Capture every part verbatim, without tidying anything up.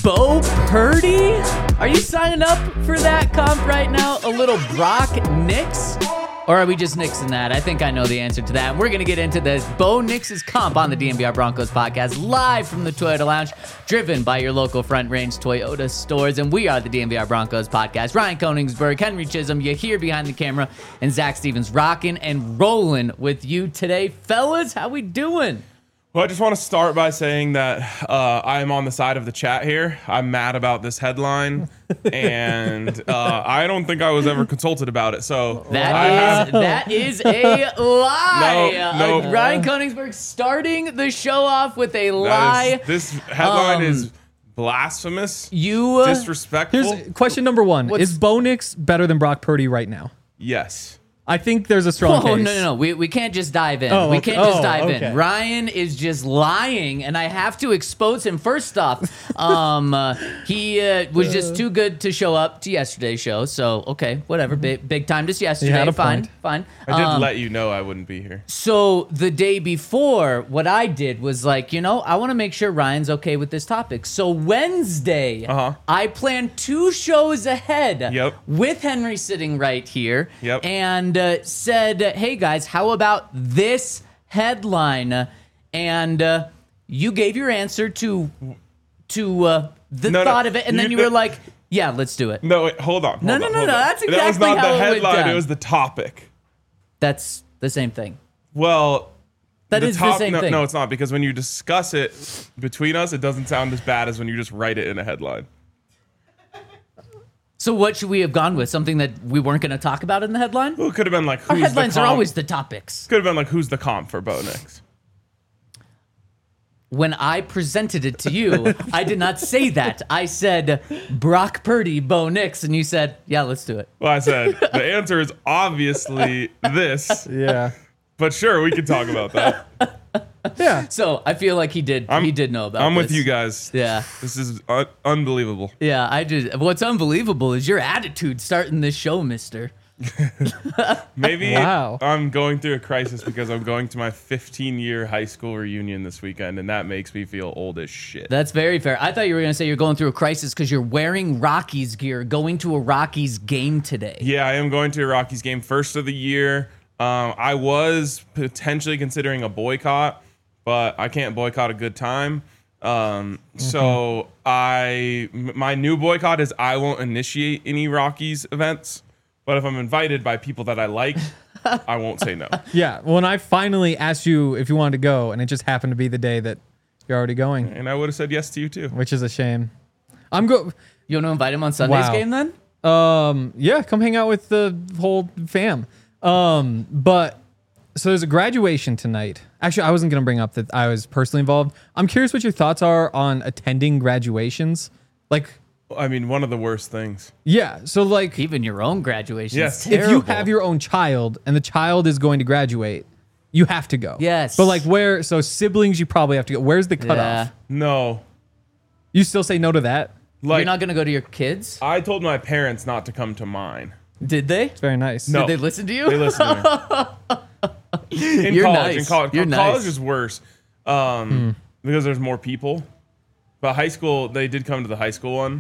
Bo Purdy? Are you signing up for that comp right now? A little Brock Nix? Or are we just nixing that? I think I know the answer to that. We're going to get into this Bo Nix's comp on the D N V R Broncos podcast, live from the Toyota Lounge, driven by your local Front Range Toyota stores. And we are the D N V R Broncos podcast. Ryan Koenigsberg, Henry Chisholm, you here behind the camera, and Zach Stevens rocking and rolling with you today. Fellas, how we doing? Well, I just want to start by saying that uh, I am on the side of the chat here. I'm mad about this headline, and uh, I don't think I was ever consulted about it. So That I is have, that is a lie. No, no. Uh, Ryan Koenigsberg starting the show off with a lie. that is- this headline Um, is blasphemous, You uh, disrespectful. Here's question number one. What's- Is Bo Nix better than Brock Purdy right now? Yes. I think there's a strong Oh, no, case. no, no. We, we can't just dive in. Oh, we okay. can't just Oh, dive okay. in. Ryan is just lying, and I have to expose him. First off, um, uh, he uh, was just too good to show up to yesterday's show. So, okay, whatever. Big, big time just yesterday. had a Fine, point. fine. I did Um, let you know I wouldn't be here. So the day before, what I did was like, you know, I want to make sure Ryan's okay with this topic. So Wednesday, Uh-huh. I planned two shows ahead Yep. with Henry sitting right here Yep. and uh, said, hey guys, how about this headline? And uh, you gave your answer to to uh, the No, no, thought of it, and then you- you were like, yeah, let's do it. No, wait, hold on. Hold No, on, no, no, hold no, on. that's That was exactly not how the it went headline. down. It was the topic. That's the same thing. Well, That the is top, the same no, thing. No, it's not, because when you discuss it between us, it doesn't sound as bad as when you just write it in a headline. So what should we have gone with? Something that we weren't going to talk about in the headline? Well, it could have been like, who's Our headlines the are comp? always the topics. Could have been like, who's the comp for Bo Nix? When I presented it to you, I did not say that. I said Brock Purdy, Bo Nix, and you said, yeah, let's do it. Well, I said the answer is obviously this, Yeah. but sure, we can talk about that. Yeah. So I feel like he did. I'm- he did know about. I'm with this. you guys. Yeah, This is un- unbelievable. yeah. I just. What's unbelievable is your attitude starting this show, Mister. Maybe Wow. I'm going through a crisis because I'm going to my fifteen-year high school reunion this weekend, and that makes me feel old as shit. That's very fair. I thought you were going to say you're going through a crisis because you're wearing Rockies gear, going to a Rockies game today. Yeah, I am going to a Rockies game, first of the year. Um, I was potentially considering a boycott, but I can't boycott a good time. Um, so I, m- my new boycott is I won't initiate any Rockies events, but if I'm invited by people that I like, I won't say no. Yeah. When I finally asked you if you wanted to go, and it just happened to be the day that you're already going, And I would have said yes to you too. which is a shame. I'm go. You want to invite him on Sunday's Wow. game then? Um. Yeah. Come hang out with the whole fam. Um. But so there's a graduation tonight. Actually, I wasn't gonna bring up that I was personally involved. I'm curious what your thoughts are on attending graduations. Like, I mean, one of the worst things. yeah. So like, Even your own graduation. Yes. Is if you terrible. have your own child and the child is going to graduate, you have to go. Yes. But like, where? So siblings, you probably have to go. Where's the cutoff? Yeah. No. You still say no to that? Like, You're not going to go to your kids? I told my parents not to come to mine. Did they? It's very nice. No. Did they listen to you? They listen to me. In You're college, nice. in college, You're college nice. is worse um, because there's more people. But high school, they did come to the high school one.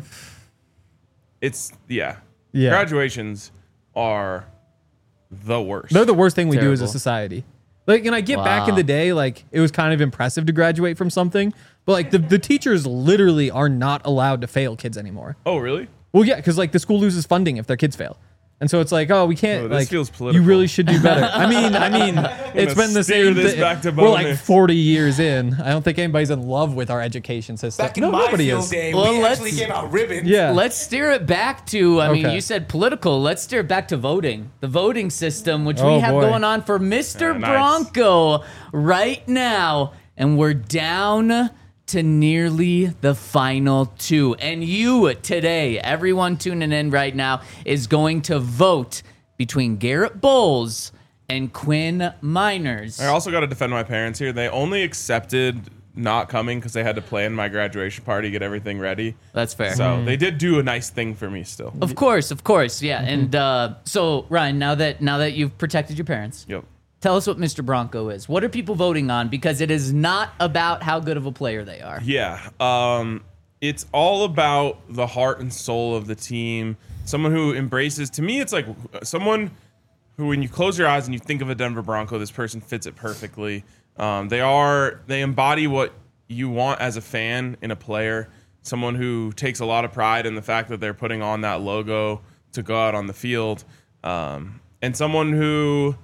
It's yeah, Yeah. Graduations are the worst. They're the worst thing we do as a Terrible. society. Like, and I get back in Wow. the day, like it was kind of impressive to graduate from something, but like the, the teachers literally are not allowed to fail kids anymore. oh really? Well, yeah, because like the school loses funding if their kids fail. And so it's like, oh, we can't. Oh, this like, feels you political. really should do better. I mean, I mean, it's been the steer same. this thi- back to We're like bonus. forty years in. I don't think anybody's in love with our education system. Back in no, my nobody field is. day, Well, we let's- actually gave out ribbons. Yeah. Let's steer it back to, I mean, Okay. you said political. Let's steer it back to voting. The voting system, which we Oh, have boy. going on for Mister Yeah, nice. Bronco right now. And we're down to nearly the final two. And you today, everyone tuning in right now, is going to vote between Garrett Bowles and Quinn Miners. I also got to defend my parents here. They only accepted not coming because they had to plan my graduation party, get everything ready. That's fair. So they did do a nice thing for me still. Of course, of course, yeah. Mm-hmm. And uh, so, Ryan, now that now that you've protected your parents, Yep. tell us what Mister Bronco is. What are people voting on? Because it is not about how good of a player they are. Yeah. Um, it's all about the heart and soul of the team. Someone who embraces, to me, it's like someone who, when you close your eyes and you think of a Denver Bronco, this person fits it perfectly. Um, they are, they embody what you want as a fan in a player. Someone who takes a lot of pride in the fact that they're putting on that logo to go out on the field. Um, and someone who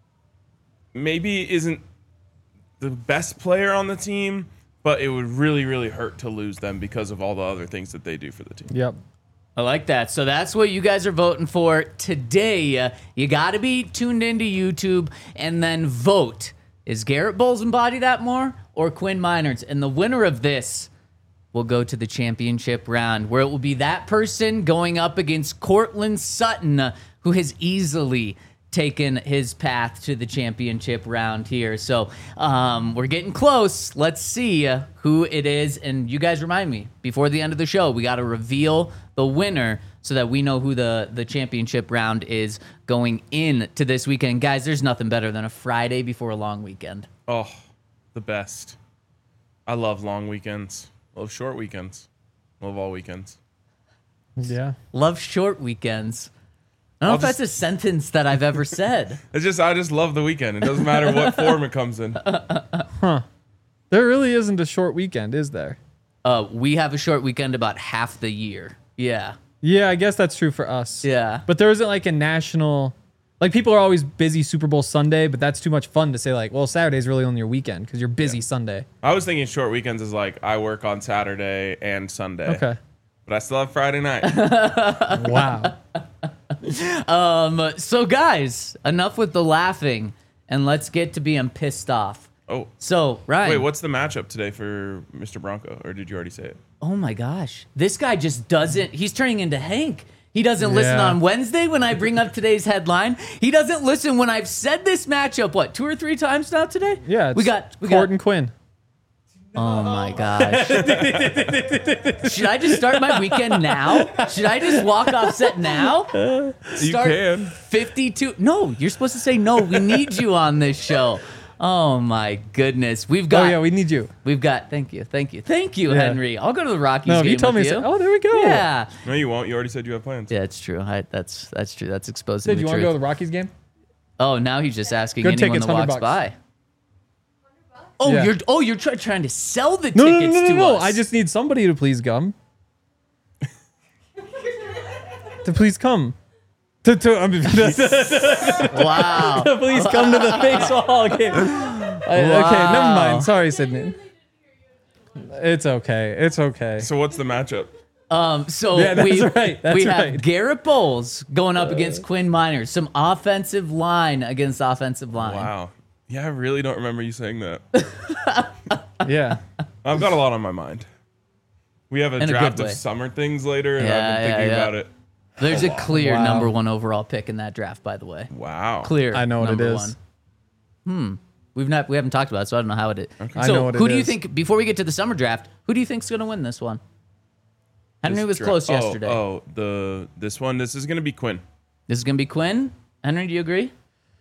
maybe isn't the best player on the team, but it would really, really hurt to lose them because of all the other things that they do for the team. Yep. I like that. So that's what you guys are voting for today. Uh, you got to be tuned into YouTube and then vote. Is Garrett Bowles embody that more or Quinn Miners? And the winner of this will go to the championship round, where it will be that person going up against Cortland Sutton, uh, who has easily taken his path to the championship round here. So um, we're getting close. Let's see uh, who it is. And you guys remind me, before the end of the show, we got to reveal the winner so that we know who the, the championship round is going in to this weekend. Guys, there's nothing better than a Friday before a long weekend. Oh, the best. I love long weekends. Love short weekends. Love all weekends. Yeah. Love short weekends. I don't know I'll if that's a sentence that I've ever said. It's just, I just love the weekend. It doesn't matter what form it comes in. There really isn't a short weekend, is there? Uh, we have a short weekend about half the year. Yeah. Yeah, I guess that's true for us. Yeah. But there isn't like a national, like people are always busy Super Bowl Sunday, but that's too much fun to say like, well, Saturday's really only your weekend because you're busy Yeah. Sunday. I was thinking short weekends is like I work on Saturday and Sunday. Okay. But I still have Friday night. Wow. Um, so guys, enough with the laughing and let's get to being pissed off. Oh. So, Ryan. Wait, what's the matchup today for Mister Bronco? Or did you already say it? Oh my gosh. This guy just doesn't, he's turning into Hank. He doesn't listen Yeah. on Wednesday when I bring up today's headline. He doesn't listen when I've said this matchup, what, two or three times now today? Yeah. It's We got, we Court got, and Quinn. oh my gosh. Should I just start my weekend now? Should I just walk off set now? You Start can. fifty-two. No, you're supposed to say no. We need you on this show. Oh my goodness. We've got Oh yeah, we need you. we've got thank you. Thank you. Thank you, Yeah. Henry. I'll go to the Rockies No, game you told me. with to you. say- Oh, there we go. Yeah. No, you won't. You already said you have plans. Yeah, it's true. I, that's that's true. That's exposing Did the you want to truth. go to the Rockies game? Oh, now he's just asking Good anyone tickets, that one walks hundred bucks. by. Oh, Yeah. you're oh you're try, trying to sell the No, no, no, tickets no, no, to no. us. I just need somebody to please come. to please come. To, to, I mean, wow. please come to the baseball game. I- Okay, never Wow. mind. Sorry, Sydney. It's okay. It's okay. So what's the matchup? Um, so Yeah, that's we, right. That's we have right. Garrett Bowles going up against Quinn Miners. Some offensive line against offensive line. Wow. Yeah, I really don't remember you saying that. Yeah. I've got a lot on my mind. We have a In a good draft way. of summer things later, and Yeah, I've been yeah, thinking yeah. about it. There's a clear Wow. number one overall pick in that draft, by the way. Wow. Clear. I know what it number is. One. Hmm. We've not we haven't talked about it, so I don't know how it is. I So know what who it do you is. think before we get to the summer draft? Who do you think's going to win this one? Henry This was dra- close oh, yesterday. Oh, the this one. This is gonna be Quinn. This is going to be Quinn. Henry, do you agree?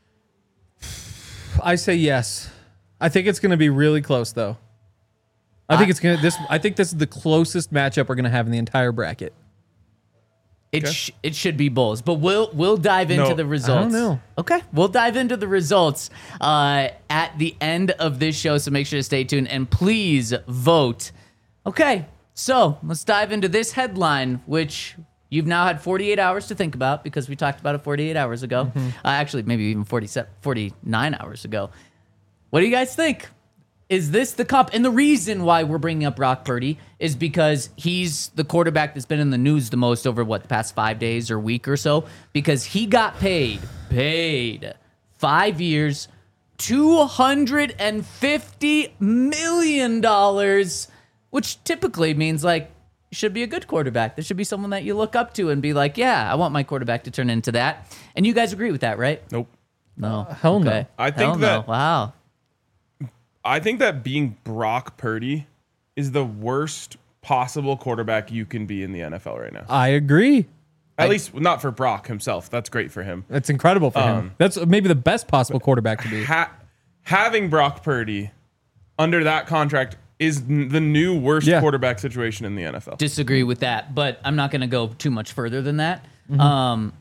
I say yes. I think it's going to be really close, though. I think I- it's going to this. I think this is the closest matchup we're going to have in the entire bracket. It Okay. sh- it should be Bulls, but we'll we'll dive into No. the results. know. Okay, we'll dive into the results uh, at the end of this show. So make sure to stay tuned and please vote. Okay, so let's dive into this headline, which you've now had forty-eight hours to think about because we talked about it forty-eight hours ago. Mm-hmm. Uh, actually, maybe even forty-seven, forty-nine hours ago. What do you guys think? Is this the comp? And the reason why we're bringing up Brock Purdy is because he's the quarterback that's been in the news the most over what the past five days or week or so, because he got paid, paid five years, two hundred fifty million dollars, which typically means like you should be a good quarterback. There should be someone that you look up to and be like, yeah, I want my quarterback to turn into that. And you guys agree with that, right? Nope. No. hell no. Okay. I think Hell no. that- Wow. I think that being Brock Purdy is the worst possible quarterback you can be in the N F L right now. I agree. At least not for Brock himself. That's great for him. That's incredible for him. Um, That's maybe the best possible quarterback to be. Ha- having Brock Purdy under that contract is n- the new worst Yeah. quarterback situation in the N F L. Disagree with that, but I'm not going to go too much further than that. Mm-hmm. Um,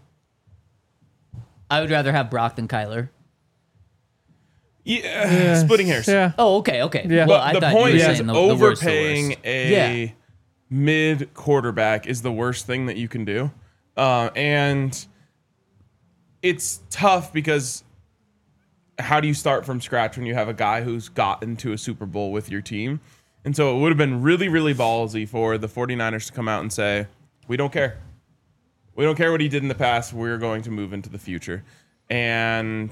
I would rather have Brock than Kyler. Yeah, splitting hairs. Yeah. Oh, okay, okay. Yeah. Well, But I the thought point you were is, saying the, the worst, the overpaying worst. a Yeah. mid quarterback is the worst thing that you can do, uh, and it's tough because how do you start from scratch when you have a guy who's gotten to a Super Bowl with your team? And so it would have been really, really ballsy for the 49ers to come out and say, we don't care. We don't care what he did in the past. We're going to move into the future. And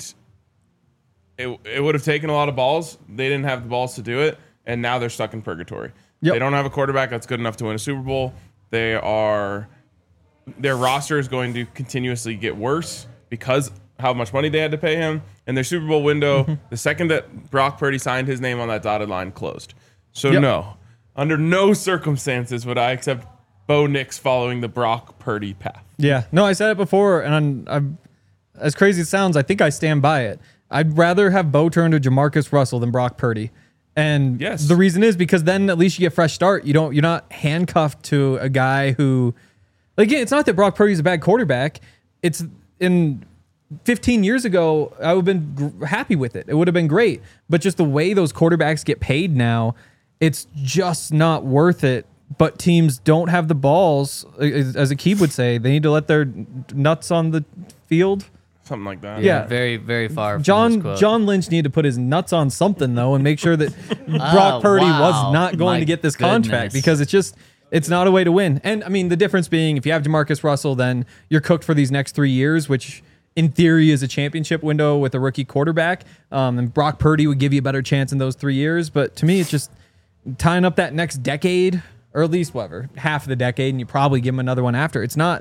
it, it would have taken a lot of balls. They didn't have the balls to do it. And now they're stuck in purgatory. Yep. They don't have a quarterback that's good enough to win a Super Bowl. They are, their roster is going to continuously get worse because how much money they had to pay him. And their Super Bowl window, the second that Brock Purdy signed his name on that dotted line, closed. So Yep. no, under no circumstances would I accept Bo Nix following the Brock Purdy path. Yeah. No, I said it before, and I'm, I'm as crazy as it sounds, I think I stand by it. I'd rather have Bo turn to Jamarcus Russell than Brock Purdy. And Yes. the reason is because then at least you get a fresh start. You don't you're not handcuffed to a guy who, like, again, it's not that Brock Purdy's a bad quarterback. It's in fifteen years ago, I would have been gr- happy with it. It would have been great. But just the way those quarterbacks get paid now, it's just not worth it. But teams don't have the balls, as as Akib would say. They need to let their nuts on the field. Something like that. Yeah. Very, very far from this John quote. John Lynch needed to put his nuts on something though, and make sure that Brock Oh, Purdy wow. was not going My to get this contract goodness. because it's just it's not a way to win. And I mean, the difference being if you have Jamarcus Russell, then you're cooked for these next three years, which in theory is a championship window with a rookie quarterback. Um, and Brock Purdy would give you a better chance in those three years. But to me, it's just tying up that next decade, or at least whatever half of the decade, and you probably give him another one after. It's not.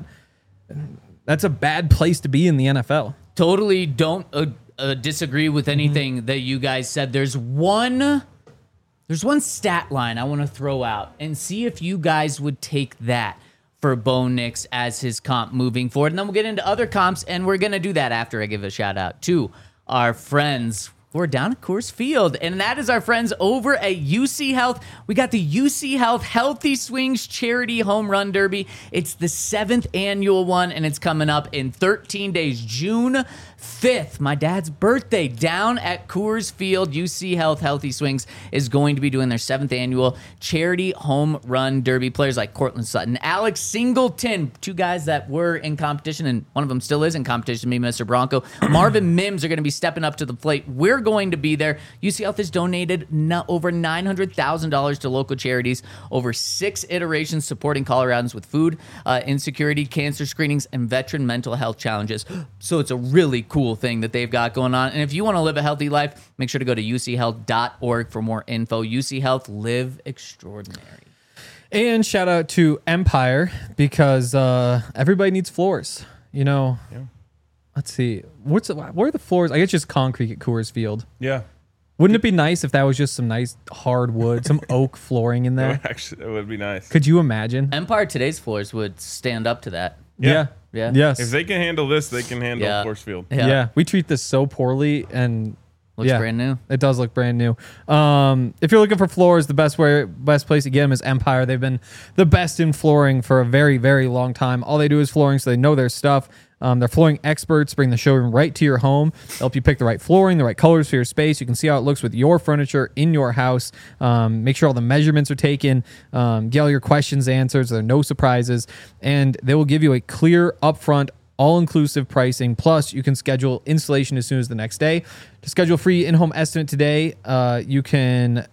That's a bad place to be in the N F L. Totally don't uh, uh, disagree with anything Mm-hmm. that you guys said. There's one, there's one stat line I want to throw out and see if you guys would take that for Bo Nix as his comp moving forward. And then we'll get into other comps, and we're going to do that after I give a shout out to our friends. We're down at Coors Field, and that is our friends over at U C Health. We got the U C Health Healthy Swings Charity Home Run Derby. It's the seventh annual one, and it's coming up in thirteen days, June fifth, my dad's birthday, down at Coors Field. U C Health Healthy Swings is going to be doing their seventh annual Charity Home Run Derby. Players like Cortland Sutton, Alex Singleton, two guys that were in competition, and one of them still is in competition, me, Mister Bronco. Marvin Mims are going to be stepping up to the plate. We're going to be there. U C Health has donated no, over nine hundred thousand dollars to local charities, over six iterations supporting Coloradans with food uh, insecurity, cancer screenings, and veteran mental health challenges. So it's a really cool thing that they've got going on. And if you want to live a healthy life, make sure to go to u c health dot org for more info. U C Health, live extraordinary. And shout out to Empire because uh, everybody needs floors. You know, Yeah. let's see. What's where are the floors? I guess just concrete at Coors Field. Yeah. Wouldn't it be nice if that was just some nice hardwood, some oak flooring in It there? would actually, it would be nice. Could you imagine? Empire today's floors would stand up to that. Yeah. Yeah. Yes. If they can handle this, they can handle Yeah. Coors Field. yeah. We treat this so poorly, and Looks yeah, brand new. It does look brand new. Um, if you're looking for floors, the best way, best place to get them is Empire. They've been the best in flooring for a very, very long time. All they do is flooring, so they know their stuff. Um, they're flooring experts. Bring the showroom right to your home. They'll help you pick the right flooring, the right colors for your space. You can see how it looks with your furniture in your house. Um, make sure all the measurements are taken. Um, get all your questions answered. So there are no surprises, and they will give you a clear, upfront, all-inclusive pricing. Plus, you can schedule installation as soon as the next day. To schedule a free in-home estimate today, uh, you can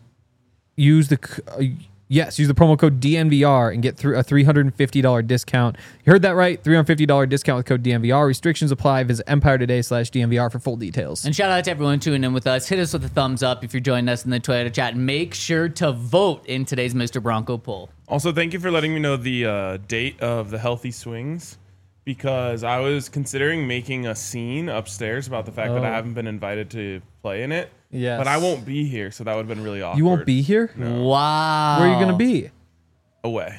use the uh, yes, use the promo code D N V R and get through a three hundred fifty dollars discount. You heard that right, three hundred fifty dollars discount with code D N V R. Restrictions apply. Visit empire today slash D N V R for full details. And shout out to everyone tuning in with us. Hit us with a thumbs up if you're joining us in the Toyota chat. And make sure to vote in today's Mister Bronco poll. Also, thank you for letting me know the uh, date of the Healthy Swings, because I was considering making a scene upstairs about the fact that I Oh. haven't been invited to play in it. Yes. But I won't be here, so that would have been really awkward. You won't be here? Wow. Where are you going to be? Away.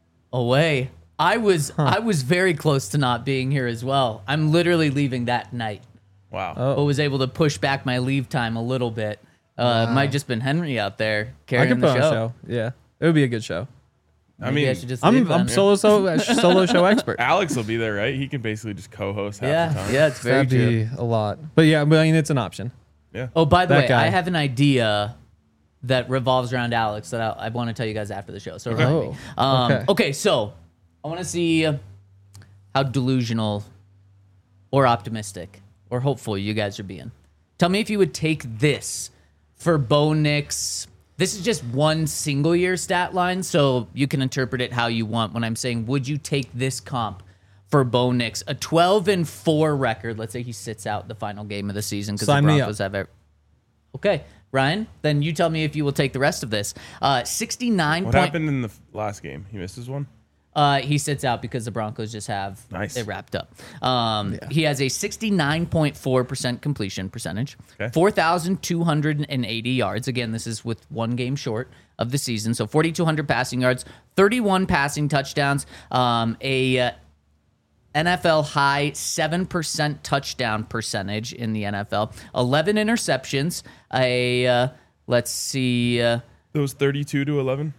Away. I was I was very close to not being here as well. I'm literally leaving that night, Wow. Oh. but was able to push back my leave time a little bit Uh, it might just been Henry out there I carrying could put the on show. a show. Yeah, it would be a good show. I Maybe mean, I should just leave I'm I'm then. solo so, solo show expert. Alex will be there, right? He can basically just co-host half the Yeah, time. yeah, it's very That'd true. be a lot, but yeah, but I mean it's an option. Yeah. Oh, by the That way, guy. I have an idea that revolves around Alex that I, I want to tell you guys after the show. So remind Oh, me. Um, okay. okay, so I want to see how delusional or optimistic or hopeful you guys are being. Tell me if you would take this for Bo Nix. This is just one single year stat line, so you can interpret it how you want. When I'm saying, would you take this comp for Bo Nix? A twelve and four record. Let's say he sits out the final game of the season because the Sign me up. Broncos have it. Okay, Ryan, then you tell me if you will take the rest of this. Uh, sixty-nine What point, happened in the f- last game? He misses one? Uh, he sits out because the Broncos just have Nice. it wrapped up. Um, He has a sixty-nine point four percent completion percentage, Okay. four thousand two hundred eighty yards. Again, this is with one game short of the season. So forty-two hundred passing yards, thirty-one passing touchdowns, um, a uh, N F L high seven percent touchdown percentage in the N F L, eleven interceptions, a, uh, let's see, uh, Those thirty-two to eleven?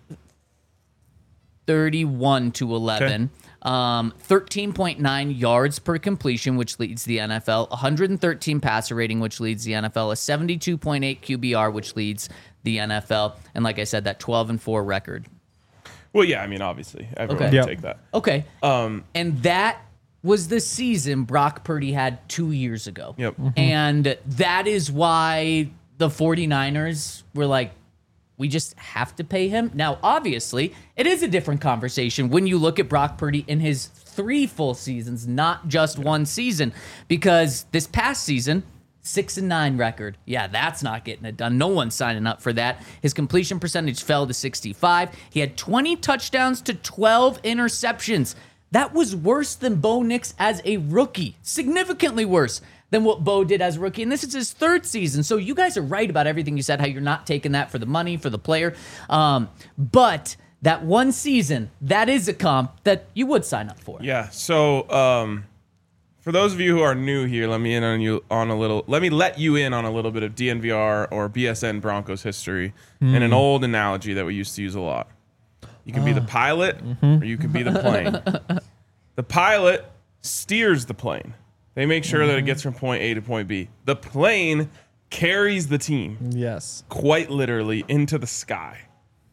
thirty-one to eleven. Um, thirteen point nine yards per completion, which leads the N F L. one hundred thirteen passer rating, which leads the N F L. A seventy-two point eight Q B R, which leads the N F L. And like I said, that twelve and four record. Well, yeah, I mean, obviously. Everyone Okay. would Yep. take that. Okay. Um, And that was the season Brock Purdy had two years ago. Yep. And that is why the 49ers were like, we just have to pay him. Now, obviously, it is a different conversation when you look at Brock Purdy in his three full seasons, not just one season, because this past season, six and nine record. Yeah, that's not getting it done. No one's signing up for that. His completion percentage fell to sixty-five. He had twenty touchdowns to twelve interceptions. That was worse than Bo Nix as a rookie, significantly worse than what Bo did as a rookie. And this is his third season. So you guys are right about everything you said, how you're not taking that for the money, for the player. Um, but that one season, that is a comp that you would sign up for. yeah. So, um, for those of you who are new here, let me in on you on a little. Let me let you in on a little bit of D N V R or B S N Broncos history and an old analogy that we used to use a lot. You can be the pilot or you can be the plane. The pilot steers the plane. They make sure that it gets from point A to point B. The plane carries the team Yes. quite literally into the sky.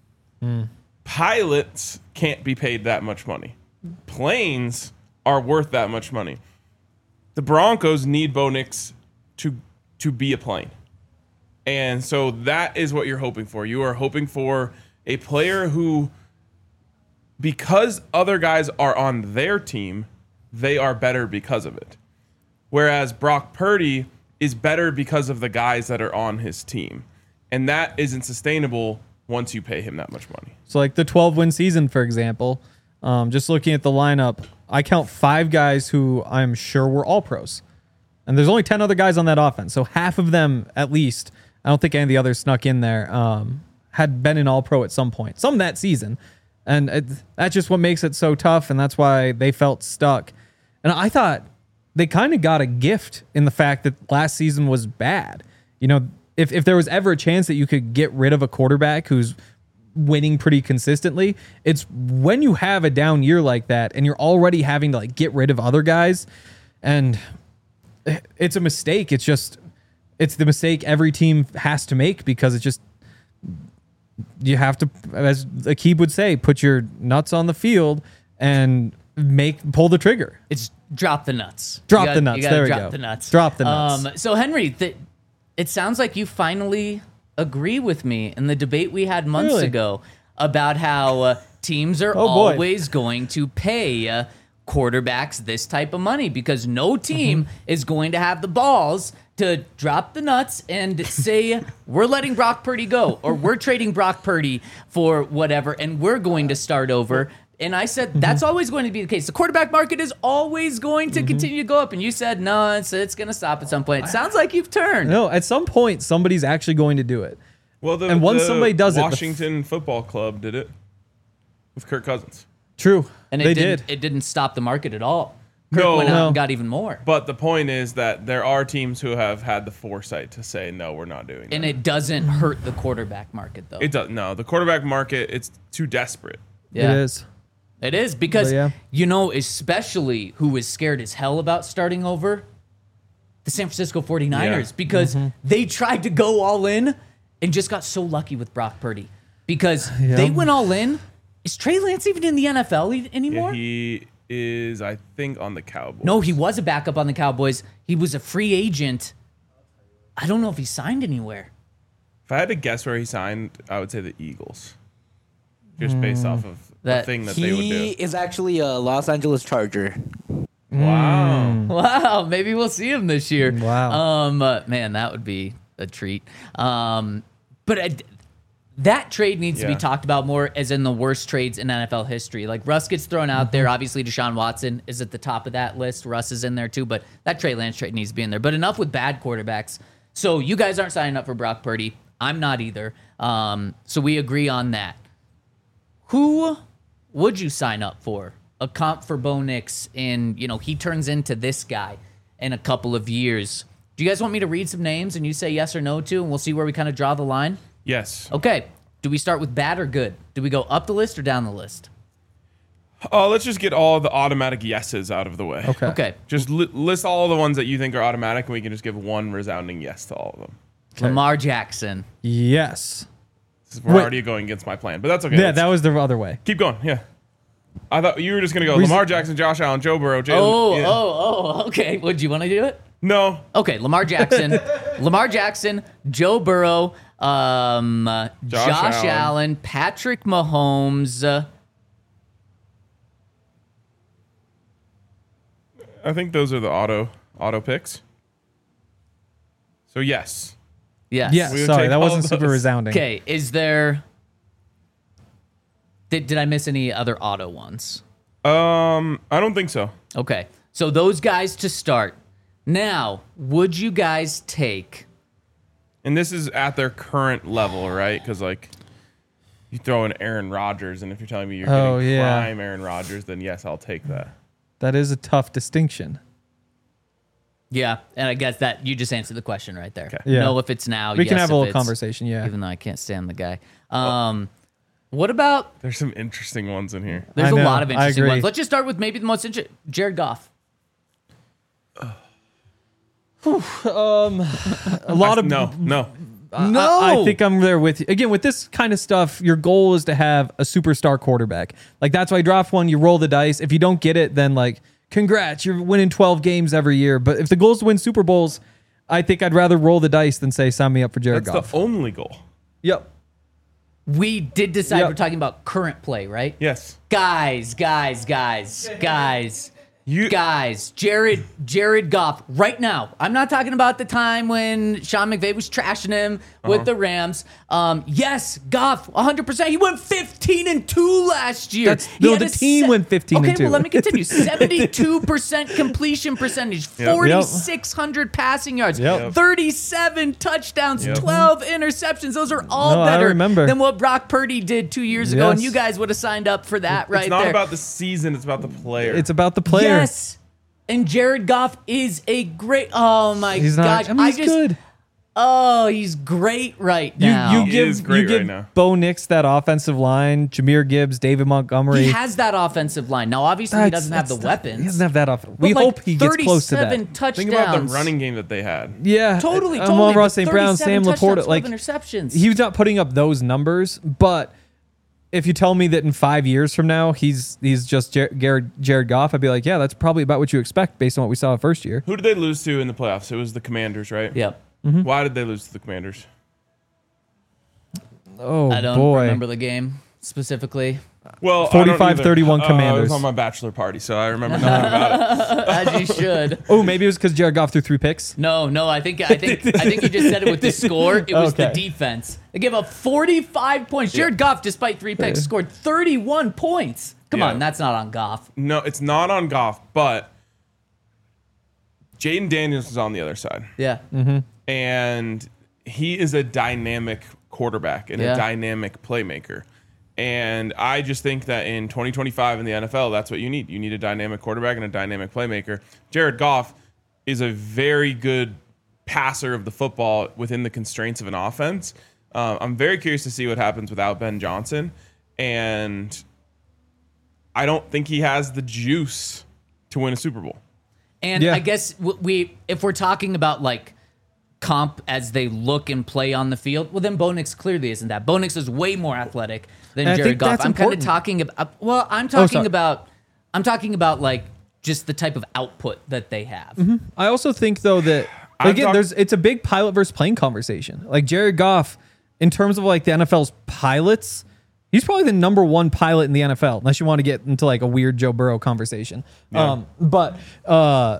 Pilots can't be paid that much money. Planes are worth that much money. The Broncos need Bo Nix to to be a plane. And so that is what you're hoping for. You are hoping for a player who, because other guys are on their team, they are better because of it. Whereas Brock Purdy is better because of the guys that are on his team. And that isn't sustainable once you pay him that much money. So like the twelve win season, for example, um, just looking at the lineup, I count five guys who I'm sure were all pros. And there's only ten other guys on that offense. So half of them, at least, I don't think any of the others snuck in there, um, had been an all pro at some point, some that season. And it, that's just what makes it so tough. And that's why they felt stuck. And I thought they kind of got a gift in the fact that last season was bad. You know, if, if there was ever a chance that you could get rid of a quarterback who's winning pretty consistently, it's when you have a down year like that and you're already having to like get rid of other guys. And it's a mistake. It's just, it's the mistake every team has to make because it's just, you have to, as Akib would say, put your nuts on the field and make, pull the trigger. It's drop the nuts. Drop You gotta- the nuts. You gotta There we drop go. the nuts. Drop the nuts. Um, so Henry, th- it sounds like you finally agree with me in the debate we had months Really? ago about how uh, teams are Oh, boy. always going to pay uh, quarterbacks this type of money because no team Mm-hmm. is going to have the balls to drop the nuts and say, we're letting Brock Purdy go or we're trading Brock Purdy for whatever and we're going to start over. And I said, Mm-hmm. that's always going to be the case. The quarterback market is always going to continue to go up. And you said, no, it's, it's going to stop at some point. It sounds like you've turned. No, at some point, somebody's actually going to do it. Well, the, And once the somebody does it, the f- Washington Football Club did it with Kirk Cousins. True. And it they didn't, did. it didn't stop the market at all. Kirk No. went out No. and got even more. But the point is that there are teams who have had the foresight to say, no, we're not doing And that. it doesn't hurt the quarterback market, though. It does no. The quarterback market, it's too desperate. yeah. It is. It is because, But yeah. you know, especially who is scared as hell about starting over? The San Francisco forty-niners, Yeah. because Mm-hmm. they tried to go all in and just got so lucky with Brock Purdy. Because they went all in. Is Trey Lance even in the N F L e- anymore? Yeah, he is, I think, on the Cowboys. No, he was a backup on the Cowboys. He was a free agent. I don't know if he signed anywhere. If I had to guess where he signed, I would say the Eagles. Just based off of That- the thing that they would He do. is actually a Los Angeles Charger. Wow. Wow, maybe we'll see him this year. Wow. Um, uh, man, that would be a treat. Um, but I, that trade needs to be Yeah. talked about more, as in the worst trades in N F L history. Like Russ gets thrown out there. Obviously, Deshaun Watson is at the top of that list. Russ is in there too, but that Trey Lance trade needs to be in there. But enough with bad quarterbacks. So you guys aren't signing up for Brock Purdy. I'm not either. Um, so we agree on that. Who would you sign up for? A comp for Bo Nix, and you know he turns into this guy in a couple of years. Do you guys want me to read some names and you say yes or no to, and we'll see where we kind of draw the line? Yes. Okay. Do we start with bad or good? Do we go up the list or down the list? Oh, let's just get all the automatic yeses out of the way. Okay. Okay. Just li- list all the ones that you think are automatic, and we can just give one resounding yes to all of them. Lamar Jackson. Yes. This is- We're Wait. already going against my plan, but that's okay. Yeah, Let's that was the other way. keep going. Yeah. I thought you were just gonna go Reason- Lamar Jackson, Josh Allen, Joe Burrow, Jalen. Oh, yeah. oh, oh, okay. Would you want to do it? No. Okay, Lamar Jackson, Lamar Jackson, Joe Burrow, um, uh, Josh, Josh Allen. Allen. Patrick Mahomes. Uh, I think those are the auto auto picks. So yes. yes. Yes. We would Sorry, take that all wasn't of super those. resounding. Okay, is there? Did, did I miss any other auto ones? Um, I don't think so. Okay, so those guys to start. Now, would you guys take? And this is at their current level, right? Because like you throw in Aaron Rodgers, and if you're telling me you're Oh, getting yeah. prime Aaron Rodgers, then yes, I'll take that. That is a tough distinction. Yeah, and I guess that you just answered the question right there. Okay. Yeah. No, if it's now, We can yes, have a if little it's- conversation. Yeah. Even though I can't stand the guy. Um, what about? There's some interesting ones in here. There's I a know, lot of I interesting agree. ones. Let's just start with maybe the most interesting. Jared Goff. A lot of no, no. I- No. I, I think I'm there with you. Again, with this kind of stuff, your goal is to have a superstar quarterback. Like that's why you draft one, you roll the dice. If you don't get it, then like congrats, you're winning twelve games every year. But if the goal is to win Super Bowls, I think I'd rather roll the dice than say sign me up for Jared That's Goff. the only goal. Yep. We did decide Yep. we're talking about current play, right? Yes. Guys, guys, guys, guys. You Guys, Jared Jared Goff, right now. I'm not talking about the time when Sean McVay was trashing him with Uh-huh. the Rams. Um, yes, Goff, one hundred percent. He went fifteen and two last year. That's- He no, had the a team went fifteen okay, and two. well, let me continue. seventy-two percent completion percentage, Yep. forty-six hundred passing yards, Yep. thirty-seven touchdowns, Yep. twelve interceptions. Those are all No, I better remember. than what Brock Purdy did two years ago, and Yes. you guys would have signed up for that right it's not there. about the season, it's about the player. It's about the player. Yes. And Jared Goff is a great. Oh my He's not. gosh! I mean, he's just. good. Oh, he's great right You now. you He give is great you give right now. Bo Nix that offensive line, Jameer Gibbs, David Montgomery. he has that offensive line now. Obviously, he That's- doesn't have the that's weapons. He doesn't have that offense. We but, like, hope he gets close to that. thirty-seven touchdowns. Think about the running game that they had. Yeah, Totally, uh, totally. Amon Ross but Saint Brown, Sam thirty-seven touchdowns, Laporta, like twelve interceptions. he's not putting up those numbers. But if you tell me that in five years from now he's he's just Jar- Jared Jared Goff, I'd be like, yeah, that's probably about what you expect based on what we saw first year. Who did they lose to in the playoffs? It was the Commanders, right? Yep. Why did they lose to the Commanders? Oh I don't boy, remember the game specifically. Well, I don't forty-five either. thirty-one Uh, I Commanders. was on my bachelor party, so I remember nothing about it. As you should. Oh, maybe it was because Jared Goff threw three picks. No, no, I think I think I think you just said it with the score. It was the Okay. defense. They gave up forty-five points. Jared Goff, despite three picks, scored thirty-one points. Come Yeah. on, that's not on Goff. No, it's not on Goff, but Jaden Daniels is on the other side. Yeah. And he is a dynamic quarterback and Yeah. a dynamic playmaker. And I just think that in twenty twenty-five in the N F L, that's what you need. You need a dynamic quarterback and a dynamic playmaker. Jared Goff is a very good passer of the football within the constraints of an offense. Uh, I'm very curious to see what happens without Ben Johnson. And I don't think he has the juice to win a Super Bowl. And Yeah. I guess w- we, if we're talking about like comp as they look and play on the field, well, then Bo Nix clearly isn't that. Bo Nix is way more athletic than And I Jared think Goff. that's I'm kind of important. talking about. Well, I'm talking sorry. about. I'm talking about like just the type of output that they have. I also think though that I'm again, talk- there's it's a big pilot versus plane conversation. Like Jared Goff, in terms of like the N F L's pilots, he's probably the number one pilot in the N F L, unless you want to get into like a weird Joe Burrow conversation. Yeah. Um, but uh,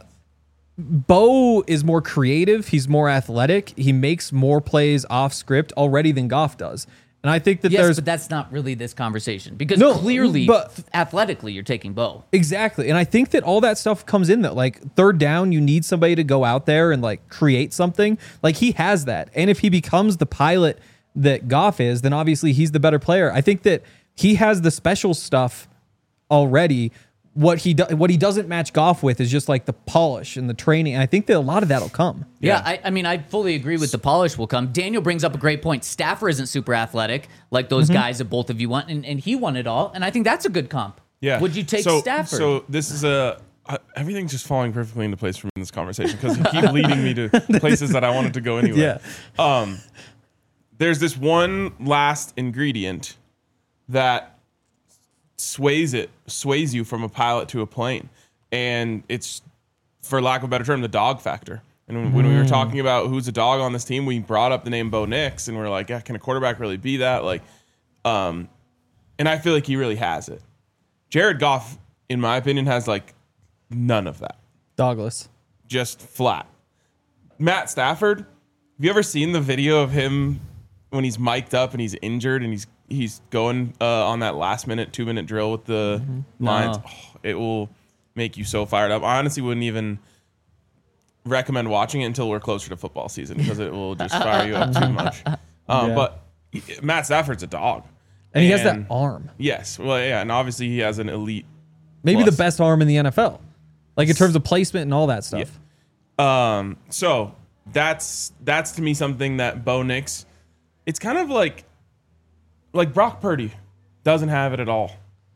Bo is more creative. He's more athletic. He makes more plays off script already than Goff does. And I think that Yes, there's but that's not really this conversation because No, clearly, but- f- athletically, you're taking Bo. Exactly. And I think that all that stuff comes in that like third down, you need somebody to go out there and like create something. Like he has that. And if he becomes the pilot that Goff is, then obviously he's the better player. I think that he has the special stuff already. What he do, what he doesn't match Goff with is just like the polish and the training. And I think that a lot of that'll come. Yeah, I, I mean, I fully agree with the polish will come. Daniel brings up a great point. Stafford isn't super athletic like those guys that both of you want, and, and he won it all. And I think that's a good comp. Yeah. Would you take so, Stafford? So this is a uh, everything's just falling perfectly into place from this conversation because you keep leading me to places that I wanted to go anyway. Yeah. Um, there's this one last ingredient that sways it sways you from a pilot to a plane, and it's, for lack of a better term, the dog factor. And when, when we were talking about who's a dog on this team, we brought up the name Bo Nix, and we're like, yeah, can a quarterback really be that? Like, um, and I feel like he really has it. Jared Goff, in my opinion, has like none of that. Douglas. Just flat. Matt Stafford, have you ever seen the video of him when he's mic'd up and he's injured and he's he's going uh, on that last minute, two minute drill with the lines? No. Oh, it will make you so fired up. I honestly wouldn't even recommend watching it until we're closer to football season because it will just fire you up too much. Um, Yeah. But Matt Stafford's a dog. And he has that arm. Yes. Well, yeah. And obviously he has an elite. Maybe plus. the best arm in the N F L. Like in terms of placement and all that stuff. Um, so that's that's to me something that Bo Nix, it's kind of like like Brock Purdy doesn't have it at all.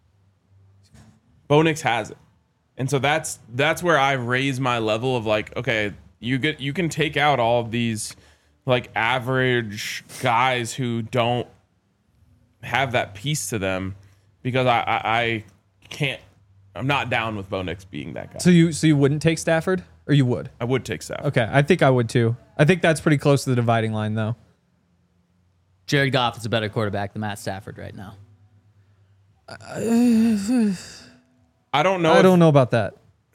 Bo Nix has it. And so that's that's where I raise my level of like, okay, you get you can take out all of these like average guys who don't have that piece to them because I I, I can't I'm not down with Bo Nix being that guy. So you so you wouldn't take Stafford? Or you would? I would take Stafford. Okay, I think I would too. I think that's pretty close to the dividing line, though. Jared Goff is a better quarterback than Matt Stafford right now. I don't know. I if- don't know about that.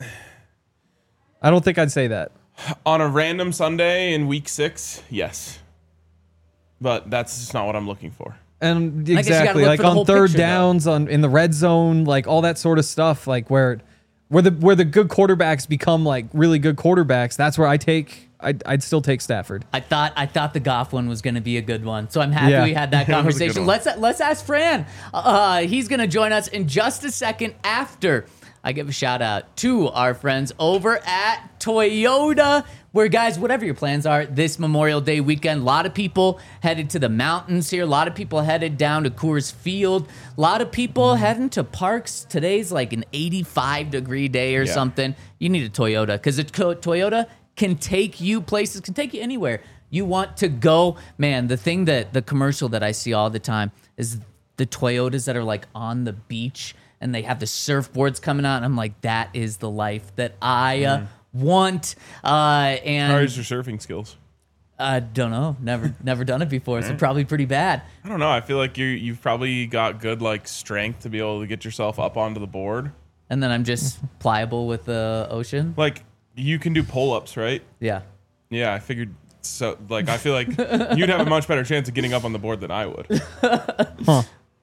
I don't think I'd say that. On a random Sunday in week six, yes. But that's just not what I'm looking for. And guess you gotta exactly, look like for the on whole third picture, though. downs, on in the red zone, like all that sort of stuff, like where, where the where the good quarterbacks become like really good quarterbacks. That's where I take. I'd, I'd still take Stafford. I thought I thought the Goff one was going to be a good one, so I'm happy Yeah. we had that That was a good conversation. one. Let's let's ask Fran. Uh, he's going to join us in just a second after I give a shout out to our friends over at Toyota. Where guys, whatever your plans are this Memorial Day weekend, a lot of people headed to the mountains here. A lot of people headed down to Coors Field. A lot of people heading to parks. Today's like an eighty-five degree day or Yeah. something. You need a Toyota because a to- Toyota can take you places, can take you anywhere you want to go. Man, the thing that the commercial that I see all the time is the Toyotas that are like on the beach and they have the surfboards coming out. And I'm like, that is the life that I uh, want. Uh, How and is your surfing skills? I don't know, never never done it before, so probably pretty bad. I don't know. I feel like you you've probably got good like strength to be able to get yourself up onto the board. And then I'm just pliable with the ocean. Like you can do pull-ups, right? Yeah. Yeah, I figured so. Like I feel like you'd have a much better chance of getting up on the board than I would.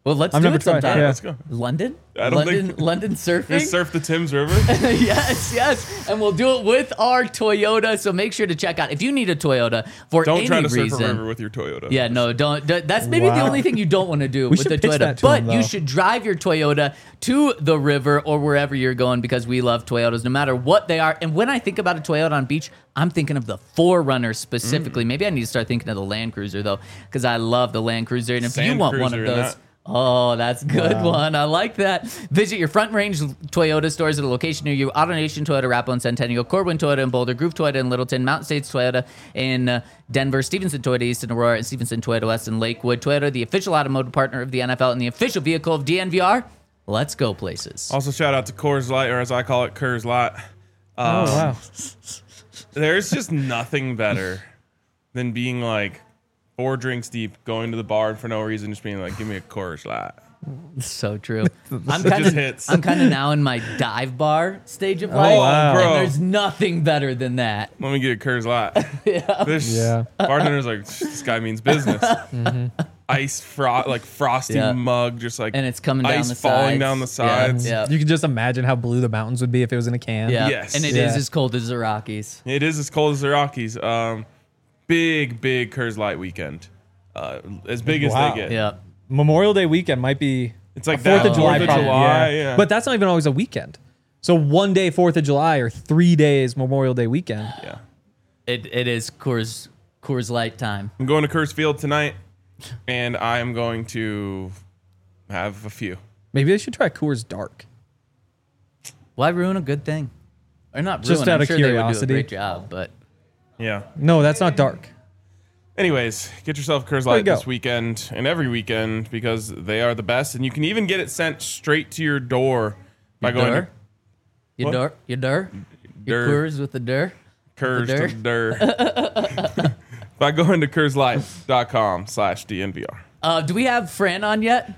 Well, let's I've do never it tried. sometime. Yeah. Let's go. London? I don't London, think- London surfing? Just surf the Thames River. yes, yes. And we'll do it with our Toyota. So make sure to check out if you need a Toyota for Don't any try to surf reason. a river with your Toyota. Yeah, no, don't. don't- That's maybe the Wow. only thing you don't want to do with should the pitch Toyota. that to But him, you though. should drive your Toyota to the river or wherever you're going because we love Toyotas no matter what they are. And when I think about a Toyota on beach, I'm thinking of the four runner specifically. Mm. Maybe I need to start thinking of the Land Cruiser though because I love the Land Cruiser. And if you Sand want one Cruiser of in those. that. Oh, that's a good one. I like that. Visit your Front Range Toyota stores at a location near you. AutoNation Toyota, Arapahoe and Centennial, Corwin Toyota in Boulder, Groove Toyota in Littleton, Mountain States Toyota in uh, Denver, Stevenson Toyota East in Aurora, and Stevenson Toyota West in Lakewood. Toyota, the official automotive partner of the N F L and the official vehicle of D N V R. Let's go places. Also, shout out to Coors Light, or as I call it, Coors Light. Oh Um, wow. There's just nothing better than being like four drinks deep, going to the bar for no reason, just being like, "Give me a Coors Light." So true. I'm It kind just of hits. I'm kind of now in my dive bar stage of life. wow. bro. And there's nothing better than that. Let me get a Coors Light. yeah. This Yeah. bartender's like, this guy means business. Ice fro- like frosty Yeah. mug, just like And it's coming down ice the falling sides. down the Yeah, sides. yeah. You can just imagine how blue the mountains would be if it was in a can. Yeah. Yes. And it is Yeah. as cold as the Rockies. It is as cold as the Rockies. Um, big, big Coors Light weekend. Uh, as big as Wow. they get. Yeah. Memorial Day weekend might be It's like Fourth that, of July, Fourth of probably, July, yeah. yeah. But that's not even always a weekend. So one day Fourth of July or three days Memorial Day weekend. yeah. It it is Coors Coors Light time. I'm going to Coors Field tonight, and I am going to have a few. Maybe they should try Coors Dark. Why ruin a good thing? Or not ruin. Just out I'm of sure they would do a curiosity. great job, but Yeah. No, that's not dark. Anyways, get yourself Coors There you Light go. this weekend and every weekend because they are the best, and you can even get it sent straight to your door by you going dur? to You What? dur? You dur? Your Dur. Coors with the dur? Coors the to Dur. By going to CoorsLight.com slash DNVR. Uh, do we have Fran on yet?